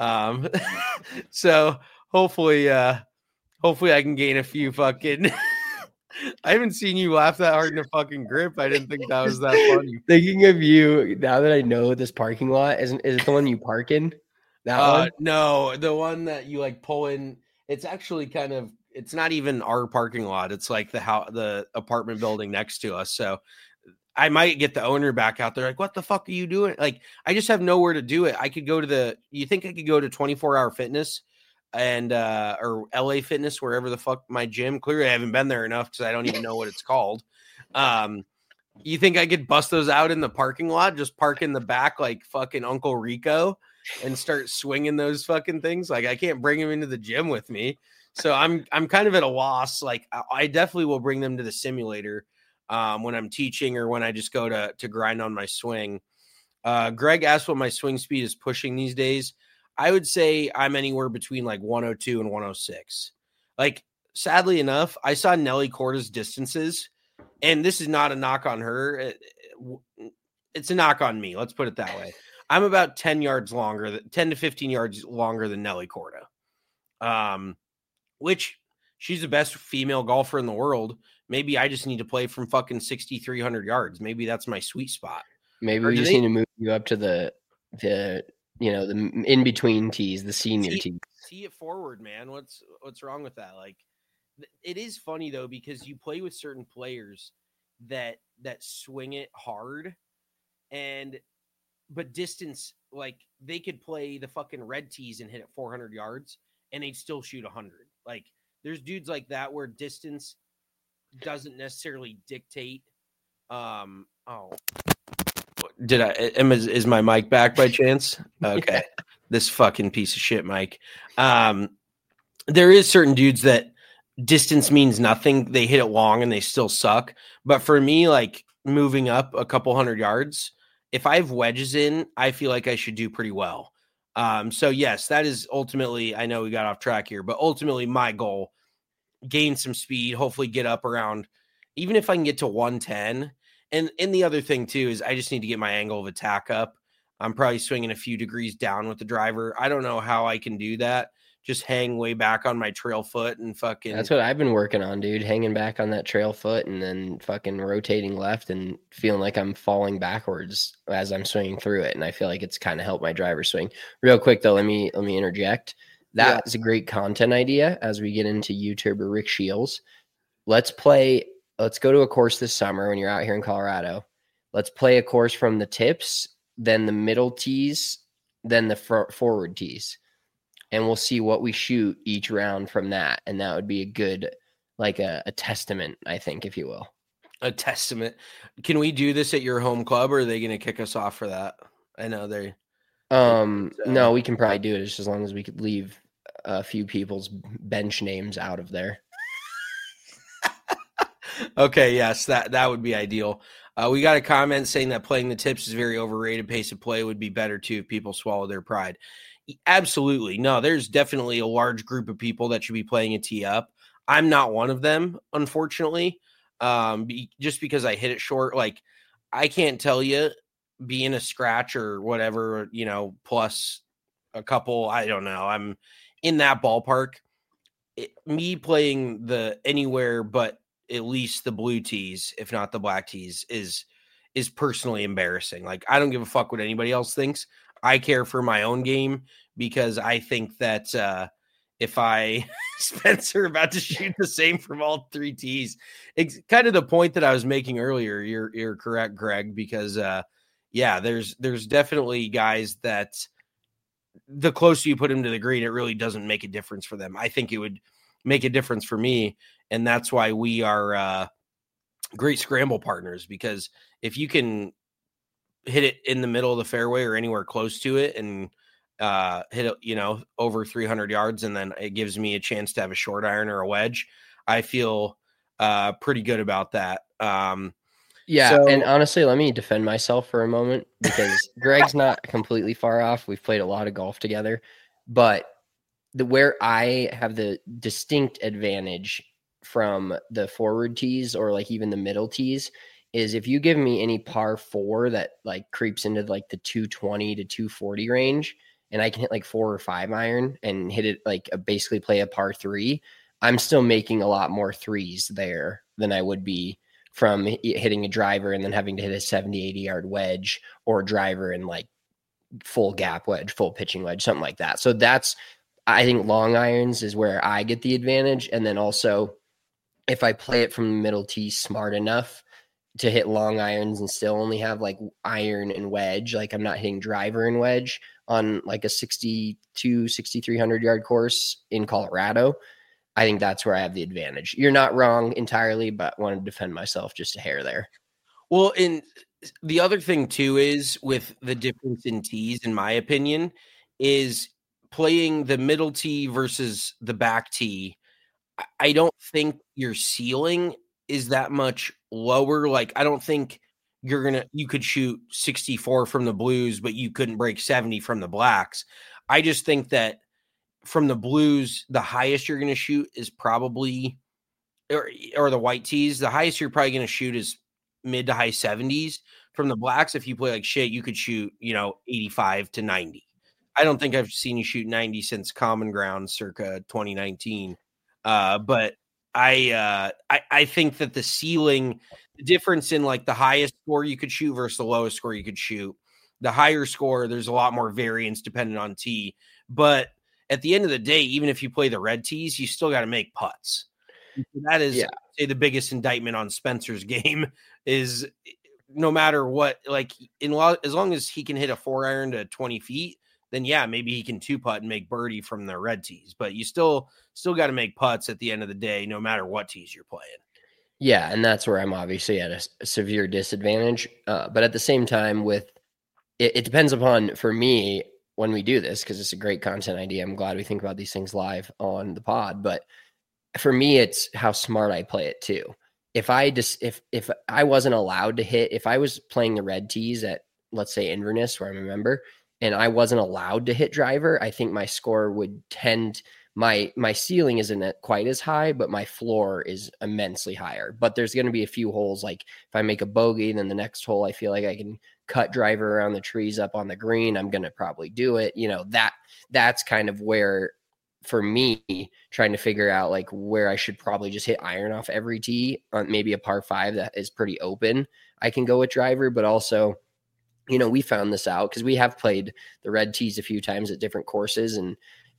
So hopefully I can gain a few fucking. I haven't seen you laugh that hard in a fucking grip. I didn't think that was that funny. Thinking of you now that I know this parking lot, is it the one you park in? That one? No, the one that you like pull in. It's actually it's not even our parking lot. It's like the apartment building next to us. So I might get the owner back out there. Like, what the fuck are you doing? Like, I just have nowhere to do it. I could go to you think I could go to 24-hour fitness and, or LA Fitness, wherever the fuck my gym. Clearly I haven't been there enough because I don't even know what it's called. You think I could bust those out in the parking lot, just park in the back like fucking Uncle Rico and start swinging those fucking things? Like, I can't bring them into the gym with me. So I'm kind of at a loss. Like, I definitely will bring them to the simulator when I'm teaching or when I just go to grind on my swing. Greg asked what my swing speed is pushing these days. I would say I'm anywhere between like 102 and 106. Like, sadly enough, I saw Nelly Corda's distances, and this is not a knock on her. It's a knock on me. Let's put it that way. I'm about 10 to 15 yards longer than Nelly Corda. Which she's the best female golfer in the world. Maybe I just need to play from fucking 6,300 yards. Maybe that's my sweet spot. Maybe we just need to move you up to the in between tees, the senior tees. See it forward, man. What's wrong with that? Like, it is funny though, because you play with certain players that swing it hard, but distance, like they could play the fucking red tees and hit it 400 yards and they'd still shoot 100. Like, there's dudes like that where distance doesn't necessarily dictate. Is my mic back by chance? Okay. This fucking piece of shit mic. There is certain dudes that distance means nothing. They hit it long and they still suck. But for me, like moving up a couple hundred yards, if I have wedges in, I feel like I should do pretty well. So yes, that is ultimately, I know we got off track here, but ultimately my goal, gain some speed, hopefully get up around, even if I can get to 110. And the other thing too, is I just need to get my angle of attack up. I'm probably swinging a few degrees down with the driver. I don't know how I can do that. Just hang way back on my trail foot and fucking. That's what I've been working on, dude. Hanging back on that trail foot and then fucking rotating left and feeling like I'm falling backwards as I'm swinging through it. And I feel like it's kind of helped my driver swing. Real quick though, let me interject. That is a great content idea as we get into YouTube or Rick Shields. Let's go to a course this summer when you're out here in Colorado. Let's play a course from the tips, then the middle tees, then the forward tees. And we'll see what we shoot each round from that. And that would be a good, like a testament, I think, if you will. A testament. Can we do this at your home club, or are they going to kick us off for that? I know they. No, we can probably do it just as long as we could leave a few people's bench names out of there. Okay, yes, that would be ideal. We got a comment saying that playing the tips is very overrated. Pace of play would be better too if people swallow their pride. Absolutely. No, there's definitely a large group of people that should be playing a tee up. I'm not one of them, unfortunately, just because I hit it short. Like, I can't tell you, being a scratch or whatever, plus a couple, I don't know. I'm in that ballpark. Me playing the anywhere but at least the blue tees, if not the black tees, is personally embarrassing. Like, I don't give a fuck what anybody else thinks. I care for my own game because I think that if Spencer about to shoot the same from all three tees, it's kind of the point that I was making earlier. You're correct, Greg, because there's definitely guys that the closer you put him to the green, it really doesn't make a difference for them. I think it would make a difference for me. And that's why we are great scramble partners, because if you can hit it in the middle of the fairway or anywhere close to it and hit, over 300 yards, and then it gives me a chance to have a short iron or a wedge. I feel pretty good about that. And honestly, let me defend myself for a moment, because Greg's not completely far off. We've played a lot of golf together, but where I have the distinct advantage from the forward tees, or like even the middle tees, is if you give me any par 4 that like creeps into like the 220 to 240 range, and I can hit like 4 or 5 iron and hit it like basically play a par 3, I'm still making a lot more threes there than I would be from hitting a driver and then having to hit a 70, 80 yard wedge, or a driver and like full gap wedge, full pitching wedge, something like that. So I think long irons is where I get the advantage. And then also, if I play it from the middle tee smart enough to hit long irons and still only have like iron and wedge, like I'm not hitting driver and wedge on like a 6,300 yard course in Colorado, I think that's where I have the advantage. You're not wrong entirely, but I want to defend myself just a hair there. Well, and the other thing too is, with the difference in tees, in my opinion, is playing the middle tee versus the back tee. I don't think your ceiling is that much lower. Like, I don't think you could shoot 64 from the blues, but you couldn't break 70 from the blacks. I just think that from the blues, the highest you're going to shoot is probably, or the white tees, the highest you're probably going to shoot is mid to high 70s. From the blacks, if you play like shit, you could shoot, 85 to 90. I don't think I've seen you shoot 90 since Common Ground circa 2019. But I think that the ceiling, the difference in like the highest score you could shoot versus the lowest score you could shoot, the higher score, there's a lot more variance depending on tee. But at the end of the day, even if you play the red tees, you still got to make putts. That is, say, the biggest indictment on Spencer's game is, no matter what, like as long as he can hit a 4-iron to 20 feet, then maybe he can 2-putt and make birdie from the red tees. But you still got to make putts at the end of the day, no matter what tees you're playing. Yeah, and that's where I'm obviously at a severe disadvantage. But at the same time, it depends upon, for me, when we do this, because it's a great content idea. I'm glad we think about these things live on the pod. But for me, it's how smart I play it too. If I wasn't allowed to hit, if I was playing the red tees at, let's say, Inverness, where I'm a member, and I wasn't allowed to hit driver, I think my score would tend, my ceiling isn't quite as high, but my floor is immensely higher. But there's going to be a few holes, like if I make a bogey, then the next hole, I feel like I can cut driver around the trees up on the green. I'm going to probably do it. That's kind of where, for me, trying to figure out like where I should probably just hit iron off every tee on maybe a par 5 that is pretty open, I can go with driver. But also, we found this out because we have played the red tees a few times at different courses, and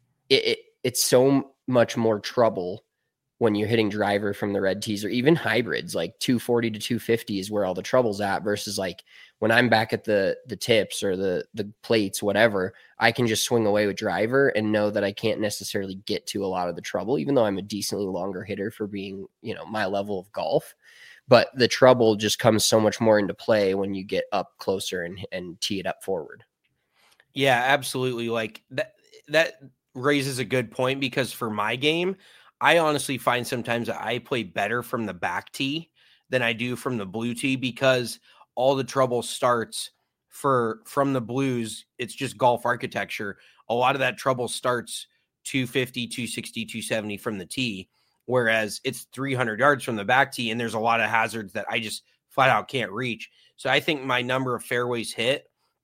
it's so much more trouble when you're hitting driver from the red tees, or even hybrids, like 240 to 250 is where all the trouble's at, versus like when I'm back at the tips or the plates, whatever, I can just swing away with driver and know that I can't necessarily get to a lot of the trouble, even though I'm a decently longer hitter for being, my level of golf. But the trouble just comes so much more into play when you get up closer and tee it up forward. Yeah, absolutely. Like that raises a good point, because for my game, I honestly find sometimes that I play better from the back tee than I do from the blue tee, because all the trouble starts from the blues. It's just golf architecture. A lot of that trouble starts 250, 260, 270 from the tee, whereas it's 300 yards from the back tee, and there's a lot of hazards that I just flat out can't reach. So I think my number of fairways hit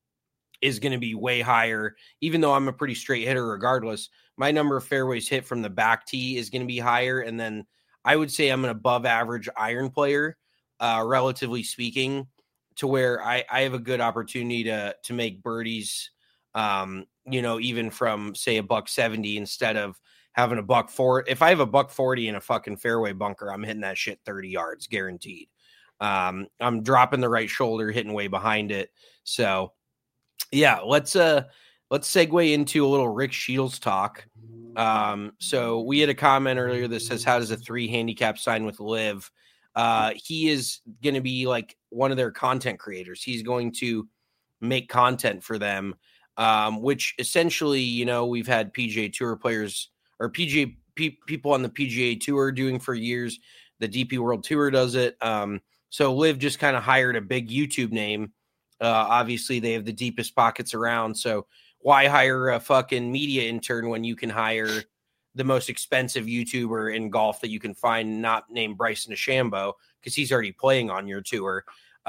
is going to be way higher, even though I'm a pretty straight hitter regardless. My number of fairways hit from the back tee is going to be higher. And then I would say I'm an above average iron player, relatively speaking, to where I have a good opportunity to make birdies, even from, say, $170 instead of having $140. If I have $140 in a fucking fairway bunker, I'm hitting that shit 30 yards guaranteed. I'm dropping the right shoulder, hitting way behind it. So yeah, let's segue into a little Rick Shields talk. So we had a comment earlier that says, how does a 3 handicap sign with Liv? He is going to be like one of their content creators. He's going to make content for them. which essentially, you know, we've had PGA Tour players or people on the PGA Tour doing for years. The DP World Tour does it. So LIV just kind of hired a big YouTube name. Obviously, they have the deepest pockets around. So why hire a fucking media intern when you can hire the most expensive YouTuber in golf that you can find, not named Bryson DeChambeau, because he's already playing on your tour.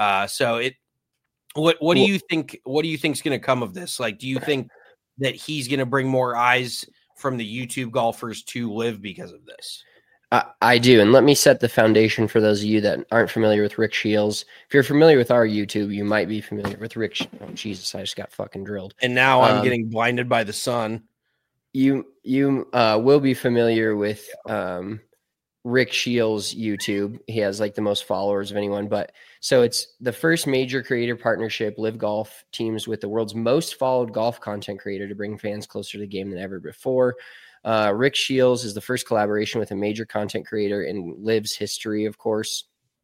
What do you think? What do you think is going to come of this? Like, do you think that he's going to bring more eyes from the YouTube golfers to LIV because of this? I do. And let me set the foundation for those of you that aren't familiar with Rick Shields. If you're familiar with our YouTube, you might be familiar with Rick. Oh, Jesus, I just got fucking drilled. And now I'm getting blinded by the sun. You will be familiar with Rick Shields' YouTube. He has like the most followers of anyone. But so it's the first major creator partnership LIV Golf teams with the world's most followed golf content creator to bring fans closer to the game than ever before. Rick Shields is the first collaboration with a major content creator in LIV's history, of course.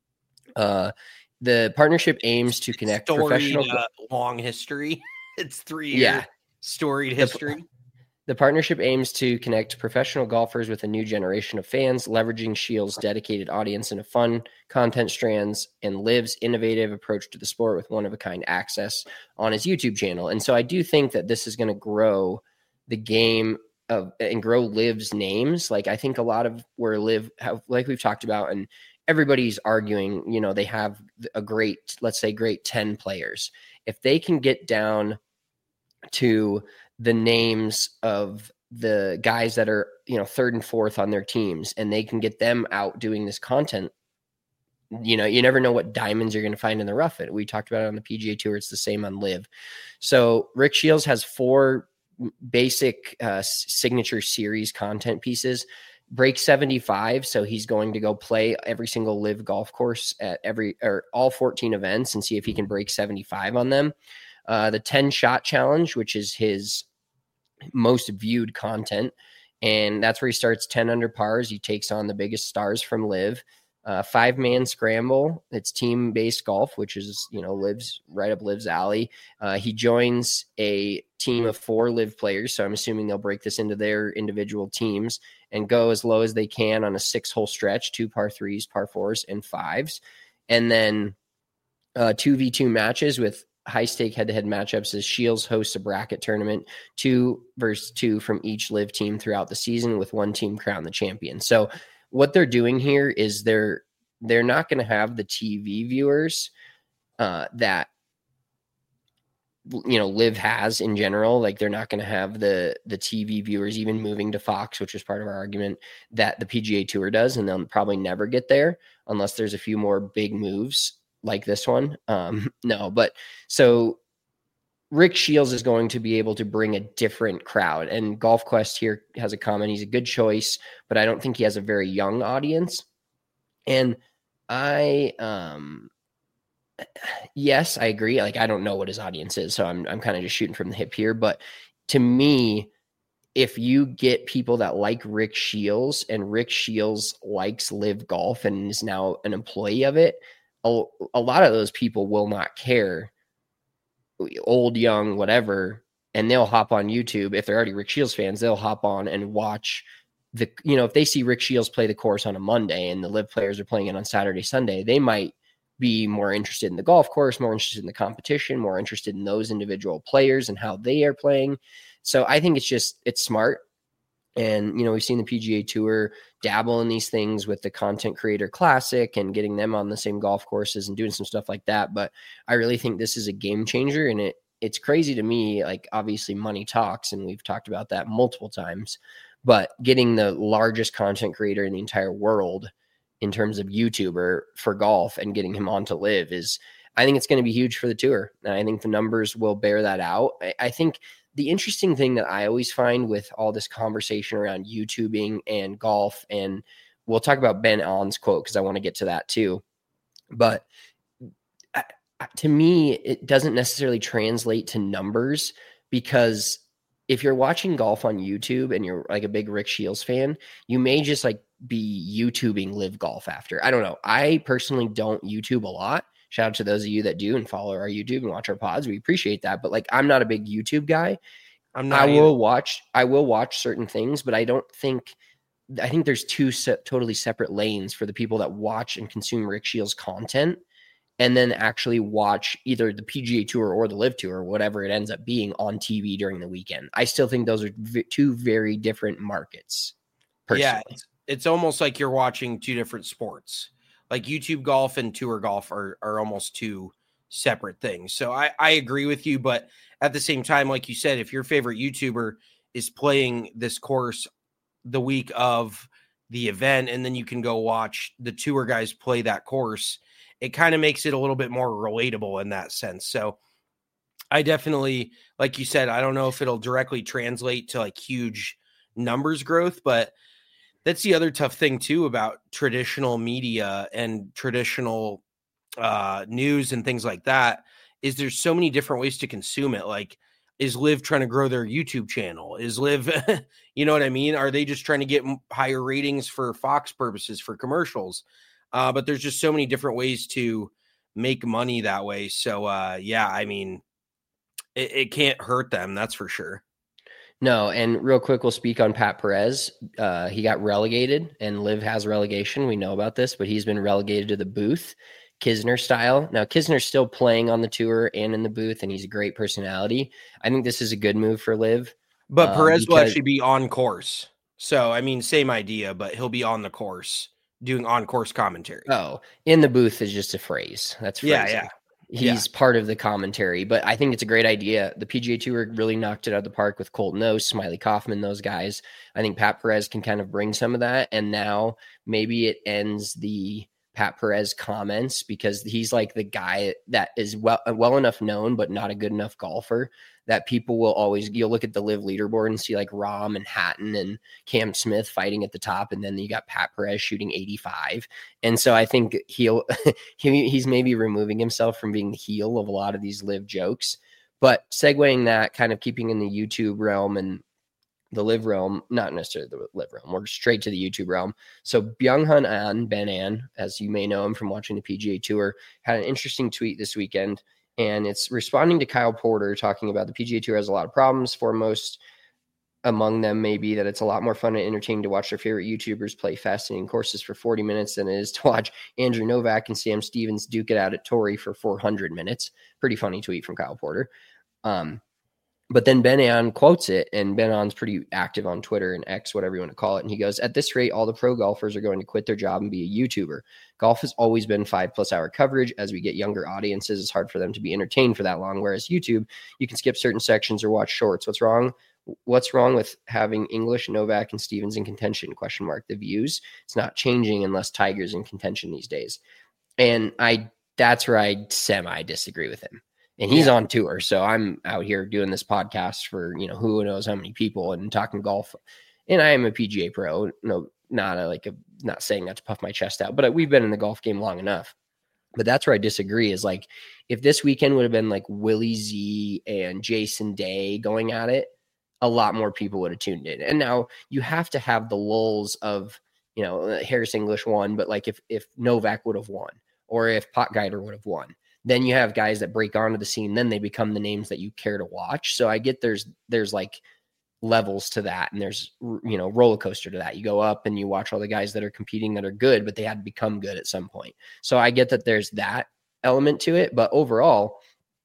The partnership aims to connect professional long history. It's 3 years storied history. The partnership aims to connect professional golfers with a new generation of fans, leveraging Shields' dedicated audience into fun content strands and LIV's innovative approach to the sport with one-of-a-kind access on his YouTube channel. And so I do think that this is going to grow the game and grow LIV's names. Like, I think a lot of where LIV have, like we've talked about, and everybody's arguing, you know, they have a great, let's say great 10 players. If they can get down to the names of the guys that are, you know, third and fourth on their teams, and they can get them out doing this content, you know, you never know what diamonds you're going to find in the rough. We talked about it on the PGA Tour. It's the same on LIV. So Rick Shields has 4 basic signature series content pieces. Break 75, so he's going to go play every single LIV golf course at all 14 events and see if he can break 75 on them. The 10 shot challenge, which is his most viewed content, and that's where he starts 10 under pars. He takes on the biggest stars from LIV. 5-man scramble. It's team-based golf, which is, you know, LIV's right up LIV's alley. He joins a team of 4 LIV players, so I'm assuming they'll break this into their individual teams and go as low as they can on a 6-hole stretch, 2 par 3s, par 4s, and 5s. And then 2v2 matches with high-stake head-to-head matchups as Shields hosts a bracket tournament, 2 versus 2 from each LIV team throughout the season, with one team crowned the champion. So what they're doing here is they're not going to have the TV viewers that, you know, LIV has in general. Like, they're not going to have the TV viewers even moving to Fox, which is part of our argument, that the PGA Tour does, and they'll probably never get there unless there's a few more big moves like this one. But so Rick Shields is going to be able to bring a different crowd, and Golf Quest here has a comment. He's a good choice, but I don't think he has a very young audience. And yes, I agree. Like, I don't know what his audience is, so I'm kind of just shooting from the hip here. But to me, if you get people that like Rick Shields, and Rick Shields likes LIV Golf and is now an employee of it, a lot of those people will not care, old, young, whatever, and they'll hop on YouTube. If they're already Rick Shields fans, they'll hop on and watch if they see Rick Shields play the course on a Monday and the LIV players are playing it on Saturday, Sunday, they might be more interested in the golf course, more interested in the competition, more interested in those individual players and how they are playing. So I think it's smart. And, you know, we've seen the PGA Tour dabble in these things with the Content Creator Classic and getting them on the same golf courses and doing some stuff like that. But I really think this is a game changer. And it's crazy to me, like, obviously money talks, and we've talked about that multiple times. But getting the largest content creator in the entire world in terms of YouTuber for golf and getting him onto LIV I think it's going to be huge for the tour. And I think the numbers will bear that out. I think the interesting thing that I always find with all this conversation around YouTubing and golf, and we'll talk about Ben Allen's quote because I want to get to that too. But to me, it doesn't necessarily translate to numbers, because if you're watching golf on YouTube and you're like a big Rick Shields fan, you may just like be YouTubing LIV Golf after. I don't know. I personally don't YouTube a lot. Shout out to those of you that do and follow our YouTube and watch our pods. We appreciate that. But like, I'm not a big YouTube guy. I'm not. I will watch certain things, but I think there's two totally separate lanes for the people that watch and consume Rick Shields content and then actually watch either the PGA Tour or the Live Tour, whatever it ends up being, on TV during the weekend. I still think those are two very different markets. Personally. Yeah, it's almost like you're watching two different sports. Like YouTube golf and tour golf are almost two separate things. So I agree with you, but at the same time, like you said, if your favorite YouTuber is playing this course the week of the event, and then you can go watch the tour guys play that course, it kind of makes it a little bit more relatable in that sense. So I definitely, like you said, I don't know if it'll directly translate to like huge numbers growth, but that's the other tough thing too about traditional media and traditional news and things like that, is there's so many different ways to consume it. Like, is Live trying to grow their YouTube channel? Is Live, you know what I mean? Are they just trying to get higher ratings for Fox purposes, for commercials? But there's just so many different ways to make money that way. So, yeah, I mean, it can't hurt them. That's for sure. No, and real quick, we'll speak on Pat Perez. He got relegated, and Liv has relegation. We know about this, but he's been relegated to the booth, Kisner style. Now, Kisner's still playing on the tour and in the booth, and he's a great personality. I think this is a good move for Liv. But Perez will actually be on course. So, I mean, same idea, but he'll be on the course doing on-course commentary. Oh, in the booth is just a phrase. That's phrasing. Yeah. He's part of the commentary, but I think it's a great idea. The PGA Tour really knocked it out of the park with Colton Oast, Smiley Kaufman, those guys. I think Pat Perez can kind of bring some of that, and now maybe it ends the Pat Perez comments because he's like the guy that is well enough known, but not a good enough golfer that people will always, you'll look at the Live leaderboard and see like Rahm and Hatton and Cam Smith fighting at the top. And then you got Pat Perez shooting 85. And so I think he's maybe removing himself from being the heel of a lot of these Live jokes, but segueing that, kind of keeping in the YouTube realm and the Live realm, not necessarily the Live realm, we're straight to the YouTube realm. So Byung-Hun An, Ben An, as you may know him from watching the PGA Tour, had an interesting tweet this weekend, and it's responding to Kyle Porter talking about the PGA Tour has a lot of problems. Foremost among them may be that it's a lot more fun and entertaining to watch their favorite YouTubers play fascinating courses for 40 minutes than it is to watch Andrew Novak and Sam Stevens duke it out at Torrey for 400 minutes. Pretty funny tweet from Kyle Porter. But then Ben An quotes it, and Ben An's pretty active on Twitter and X, whatever you want to call it. And he goes, at this rate, all the pro golfers are going to quit their job and be a YouTuber. Golf has always been 5+ hour coverage. As we get younger audiences, it's hard for them to be entertained for that long. Whereas YouTube, you can skip certain sections or watch shorts. What's wrong? What's wrong with having English, Novak, and Stevens in contention? ? The views. It's not changing unless Tiger's in contention these days. And that's where I semi disagree with him. And he's on tour. So I'm out here doing this podcast for, who knows how many people and talking golf. And I am a PGA pro. No, not saying that to puff my chest out, but we've been in the golf game long enough. But that's where I disagree is like, if this weekend would have been like Willie Z and Jason Day going at it, a lot more people would have tuned in. And now you have to have the lulls of, Harris English won, but like if Novak would have won or if Potgieter would have won, then you have guys that break onto the scene. Then they become the names that you care to watch. So I get there's like levels to that. And there's, roller coaster to that. You go up and you watch all the guys that are competing that are good, but they had to become good at some point. So I get that there's that element to it. But overall,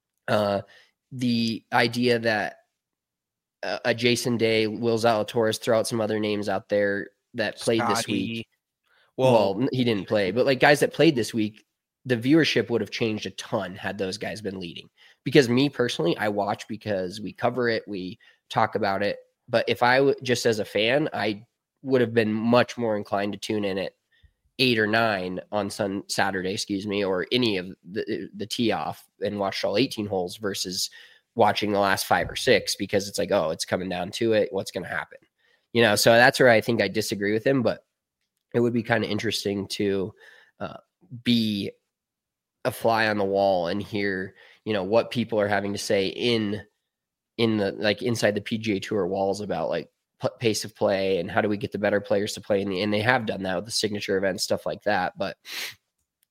the idea that a Jason Day, Will Zalatoris, throw out some other names out there that played Scotty. This week. Well, he didn't play, but like guys that played this week, the viewership would have changed a ton had those guys been leading. Because me personally, I watch because we cover it, we talk about it. But if I just as a fan, I would have been much more inclined to tune in at 8 or 9 on Saturday, or any of the tee off and watch all 18 holes versus watching the last 5 or 6 because it's like, oh, it's coming down to it. What's going to happen? So that's where I think I disagree with him, but it would be kind of interesting to be a fly on the wall and hear, what people are having to say in the, like inside the PGA Tour walls about like pace of play and how do we get the better players to play and they have done that with the signature events, stuff like that. But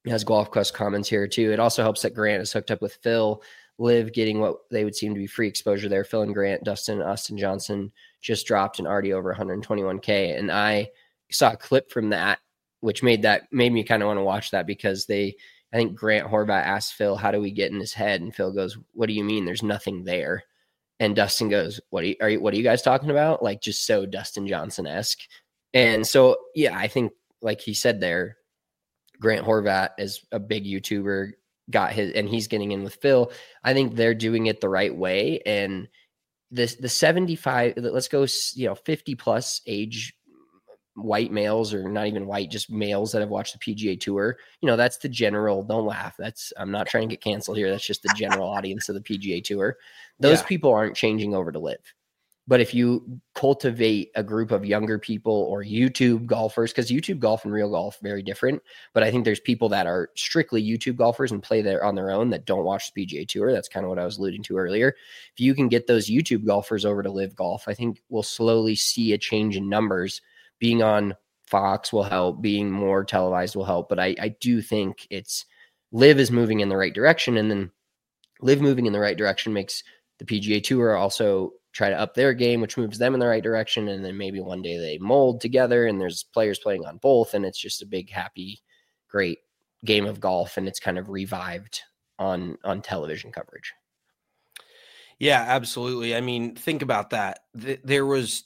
has Golf Quest comments here too. It also helps that Grant is hooked up with Phil. Liv getting what they would seem to be free exposure there. Phil and Grant, Dustin, Austin Johnson just dropped and already over 121K. And I saw a clip from that, which made me kind of want to watch that, because I think Grant Horvat asked Phil, how do we get in his head? And Phil goes, what do you mean? There's nothing there. And Dustin goes, what are you guys talking about? Like, just so Dustin Johnson-esque. And so, yeah, I think like he said there, Grant Horvat is a big YouTuber, and he's getting in with Phil. I think they're doing it the right way. And the 75, let's go, 50 plus age white males, or not even white, just males that have watched the PGA Tour. That's the general, don't laugh. I'm not trying to get canceled here. That's just the general audience of the PGA Tour. Those people aren't changing over to live. But if you cultivate a group of younger people or YouTube golfers, because YouTube golf and real golf, very different. But I think there's people that are strictly YouTube golfers and play there on their own that don't watch the PGA Tour. That's kind of what I was alluding to earlier. If you can get those YouTube golfers over to live golf, I think we'll slowly see a change in numbers. Being on Fox will help. Being more televised will help. But I do think live is moving in the right direction. And then live moving in the right direction makes the PGA Tour also try to up their game, which moves them in the right direction. And then maybe one day they mold together and there's players playing on both. And it's just a big, happy, great game of golf. And it's kind of revived on television coverage. Yeah, absolutely. I mean, think about that. There was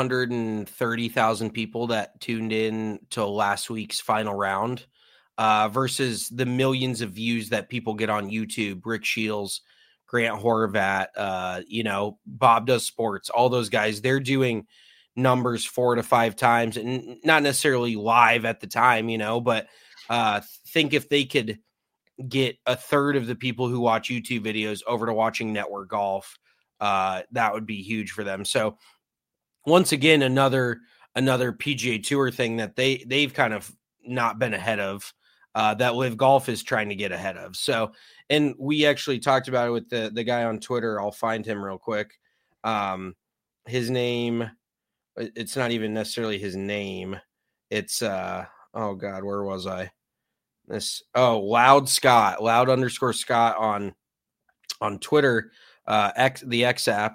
230,000 people that tuned in to last week's final round versus the millions of views that people get on YouTube. Rick Shields, Grant Horvat, Bob Does Sports, all those guys, they're doing numbers 4 to 5 times, and not necessarily live at the time, but think if they could get a third of the people who watch YouTube videos over to watching Network Golf, that would be huge for them. So once again, another PGA Tour thing that they've kind of not been ahead of, that Live Golf is trying to get ahead of. So, and we actually talked about it with the guy on Twitter. I'll find him real quick. His name, it's not even necessarily his name. It's, oh God, where was I? Loud _ Scott on Twitter, the X app,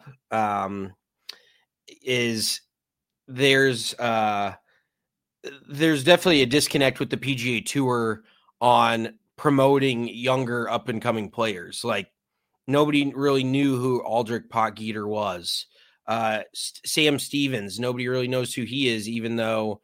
is there's definitely a disconnect with the PGA Tour on promoting younger up and coming players. Like, nobody really knew who Aldrich Potgieter was. Sam Stevens, nobody really knows who he is, even though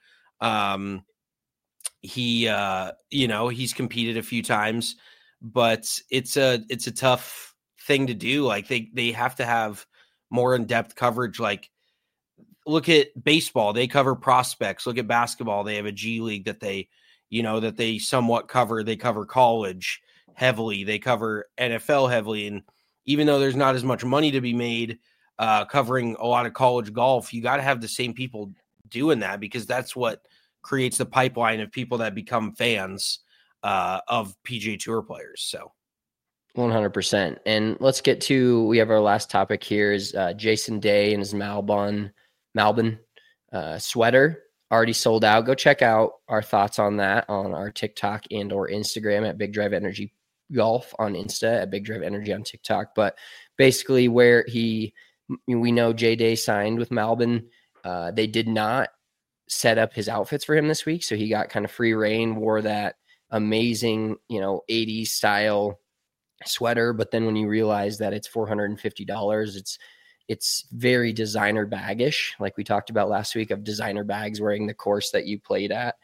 he's competed a few times, but it's a tough thing to do. Like, they have to have more in-depth coverage. Like, look at baseball, they cover prospects. Look at basketball, they have a G League that they somewhat cover. They cover college heavily, they cover NFL heavily. And even though there's not as much money to be made covering a lot of college golf, you got to have the same people doing that, because that's what creates the pipeline of people that become fans of PGA Tour players. So 100%. And let's get to, we have our last topic here is Jason Day and his Malbon sweater already sold out. Go check out our thoughts on that on our TikTok and or Instagram at Big Drive Energy Golf on Insta, at Big Drive Energy on TikTok. But basically where we know Jay Day signed with Malbon, they did not set up his outfits for him this week. So he got kind of free reign, wore that amazing, 80s style sweater. But then when you realize that it's $450, it's very designer baggish. Like we talked about last week, of designer bags wearing the course that you played at.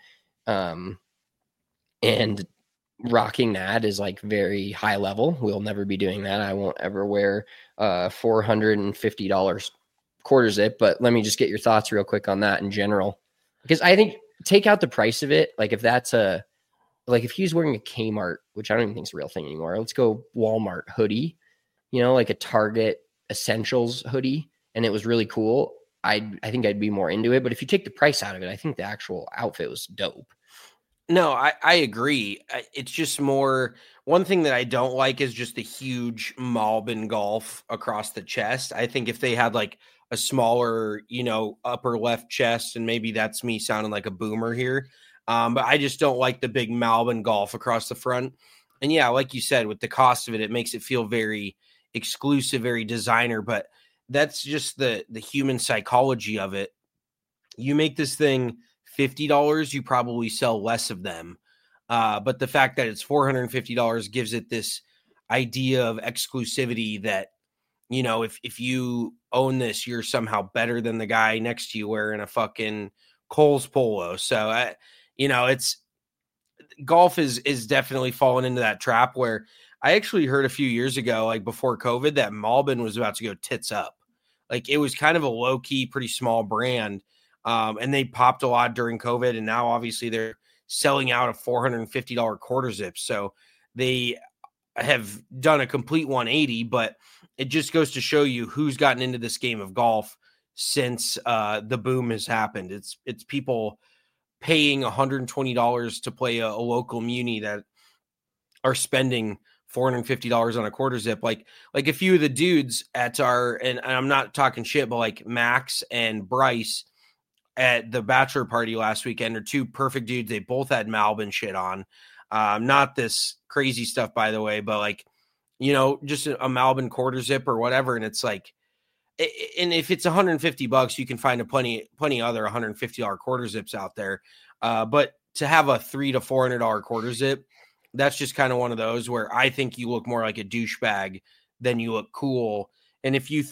And rocking that is like very high level. We'll never be doing that. I won't ever wear $450 quarter zip, but let me just get your thoughts real quick on that in general. Because I think, take out the price of it. Like, if that's if he's wearing a Kmart, which I don't even think is a real thing anymore, let's go Walmart hoodie, like a Target Essentials hoodie, and it was really cool, I think I'd be more into it. But if you take the price out of it, I think the actual outfit was dope. No, I agree. It's just more, one thing that I don't like is just the huge Malbon Golf across the chest. I think if they had like a smaller, upper left chest, and maybe that's me sounding like a boomer here, But I just don't like the big Malbon golf across the front. And yeah, like you said, with the cost of it, it makes it feel very exclusive, very designer, but that's just the human psychology of it. You make this thing $50, you probably sell less of them. But the fact that it's $450 gives it this idea of exclusivity that, you know, if you own this, you're somehow better than the guy next to you wearing a fucking Kohl's polo. So, it's golf is definitely fallen into that trap where I actually heard a few years ago, like before COVID, that Malbon was about to go tits up. Like it was kind of a low key, pretty small brand. And they popped a lot during COVID. And now obviously they're selling out a $450 quarter zip. So they have done a complete 180, but it just goes to show you who's gotten into this game of golf since the boom has happened. It's people paying $120 to play a local muni that are spending $450 on a quarter zip. Like a few of the dudes at and I'm not talking shit, but like Max and Bryce at the bachelor party last weekend are two perfect dudes. They both had Malbon shit on. Not this crazy stuff, by the way, but like, just a Malbon quarter zip or whatever. And it's like, and if it's $150, you can find plenty other $150 quarter zips out there. But to have a $300 to $400 quarter zip, that's just kind of one of those where I think you look more like a douchebag than you look cool. And if you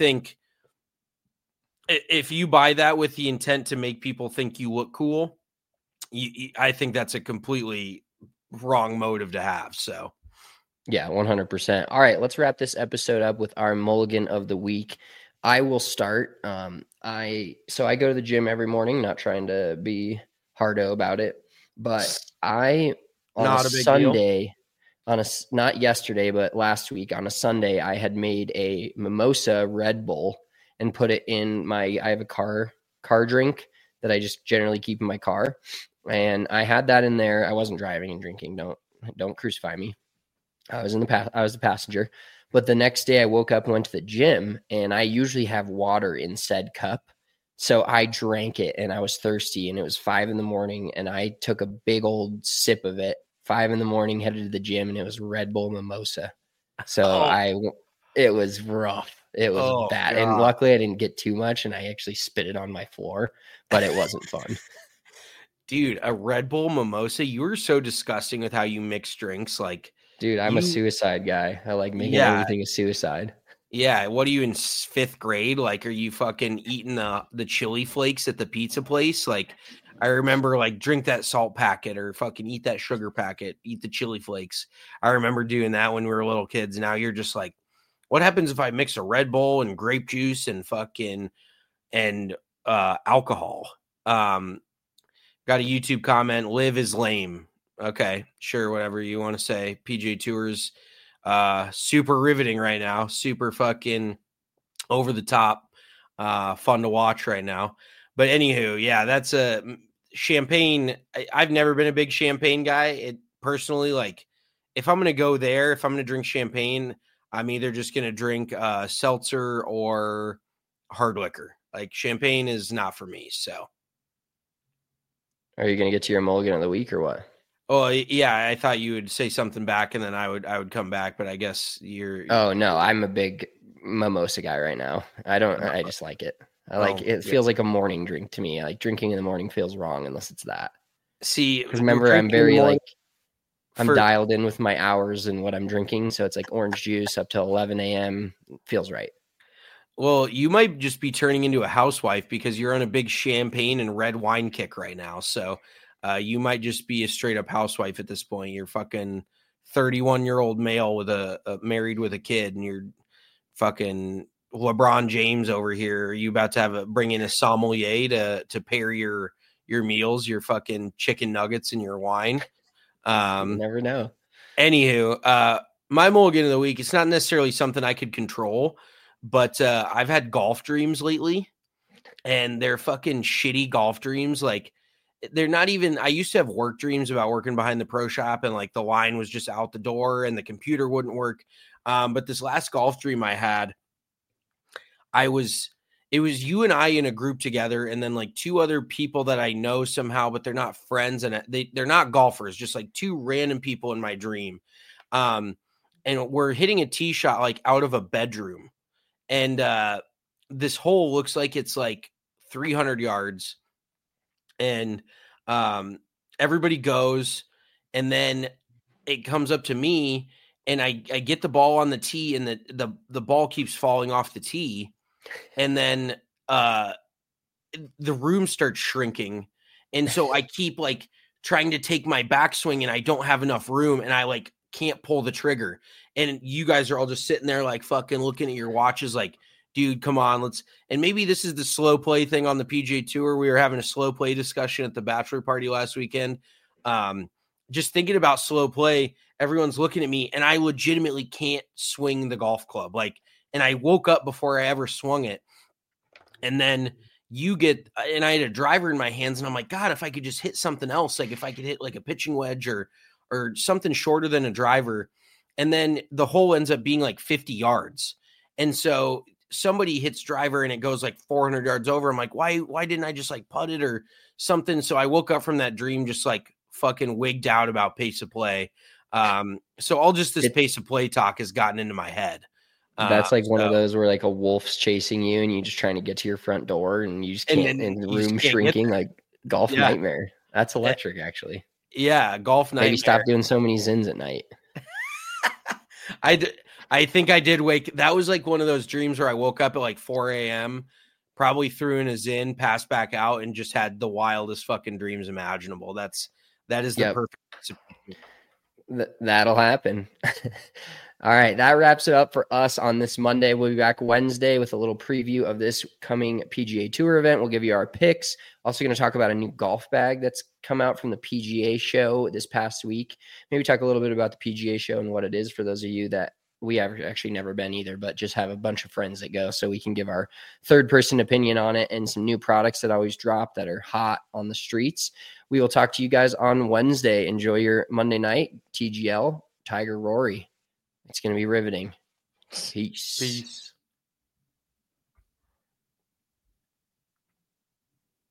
buy that with the intent to make people think you look cool, I think that's a completely wrong motive to have. So yeah, 100%. All right, let's wrap this episode up with our mulligan of the week. I will start. I go to the gym every morning, not trying to be hardo about it, but not yesterday, but last week on a Sunday, I had made a mimosa Red Bull and put it in I have a car drink that I just generally keep in my car. And I had that in there. I wasn't driving and drinking. Don't crucify me. I was the passenger. But the next day I woke up and went to the gym, and I usually have water in said cup. So I drank it and I was thirsty, and it was 5 a.m. and I took a big old sip of it. 5 a.m, headed to the gym, and it was Red Bull mimosa. So it was rough. It was bad. God. And luckily I didn't get too much, and I actually spit it on my floor, but it wasn't fun. Dude, a Red Bull mimosa? You were so disgusting with how you mix drinks. Like, dude, I'm a suicide guy. I like making everything a suicide. Yeah. What are you in 5th grade? Like, are you fucking eating the chili flakes at the pizza place? Like, I remember like drink that salt packet or fucking eat that sugar packet, eat the chili flakes. I remember doing that when we were little kids. Now you're just like, what happens if I mix a Red Bull and grape juice and fucking alcohol? Got a YouTube comment. Live is lame. Okay, sure, whatever you want to say. PGA Tour's super riveting right now. Super fucking over the top. Fun to watch right now. But anywho, yeah, that's a champagne. I've never been a big champagne guy. Personally, like, if I'm going to go there, if I'm going to drink champagne, I'm either just going to drink seltzer or hard liquor. Like, champagne is not for me, so. Are you going to get to your mulligan of the week or what? Oh, yeah, I thought you would say something back and then I would come back, but I guess you're. Oh, no, I'm a big mimosa guy right now. I just like it. It feels like a morning drink to me. Like drinking in the morning feels wrong unless it's that. See, because remember, I'm very I'm dialed in with my hours and what I'm drinking. So it's like orange juice up till 11 a.m. Feels right. Well, you might just be turning into a housewife because you're on a big champagne and red wine kick right now. So you might just be a straight up housewife at this point. You're fucking 31-year-old male with married with a kid, and you're fucking LeBron James over here. Are you about to bring in a sommelier to pair your meals, your fucking chicken nuggets and your wine? You never know. Anywho, my mulligan of the week, it's not necessarily something I could control, but I've had golf dreams lately, and they're fucking shitty golf dreams. Like, they're not even, I used to have work dreams about working behind the pro shop, and like the line was just out the door and the computer wouldn't work. But this last golf dream I had, it was you and I in a group together, and then like two other people that I know somehow, but they're not friends and they're not golfers, just like two random people in my dream. And we're hitting a tee shot like out of a bedroom. And this hole looks like it's like 300 yards. And everybody goes, and then it comes up to me, and I get the ball on the tee, and the ball keeps falling off the tee. And then the room starts shrinking. And so I keep like trying to take my backswing, and I don't have enough room, and I like can't pull the trigger. And you guys are all just sitting there like fucking looking at your watches like, dude, come on, and maybe this is the slow play thing on the PGA Tour. We were having a slow play discussion at the bachelor party last weekend. Just thinking about slow play, everyone's looking at me, and I legitimately can't swing the golf club. Like, and I woke up before I ever swung it. And then and I had a driver in my hands, and I'm like, God, if I could just hit something else, like if I could hit like a pitching wedge or something shorter than a driver. And then the hole ends up being like 50 yards. And so somebody hits driver and it goes like 400 yards over. I'm like, why didn't I just like putt it or something? So I woke up from that dream just like fucking wigged out about pace of play. So all just this pace of play talk has gotten into my head. That's like one of those where like a wolf's chasing you and you're just trying to get to your front door and you just can't, and the room shrinking, like golf nightmare. That's electric, actually. Yeah, golf nightmare. Maybe stop doing so many zins at night. I think I did wake. That was like one of those dreams where I woke up at like 4 a.m., probably threw in a zin, passed back out, and just had the wildest fucking dreams imaginable. That is the perfect. That'll happen. All right, that wraps it up for us on this Monday. We'll be back Wednesday with a little preview of this coming PGA Tour event. We'll give you our picks. Also going to talk about a new golf bag that's come out from the PGA show this past week. Maybe talk a little bit about the PGA show and what it is for those of you that we have actually never been either, but just have a bunch of friends that go so we can give our third-person opinion on it and some new products that always drop that are hot on the streets. We will talk to you guys on Wednesday. Enjoy your Monday night. TGL, Tiger Rory. It's going to be riveting. Peace.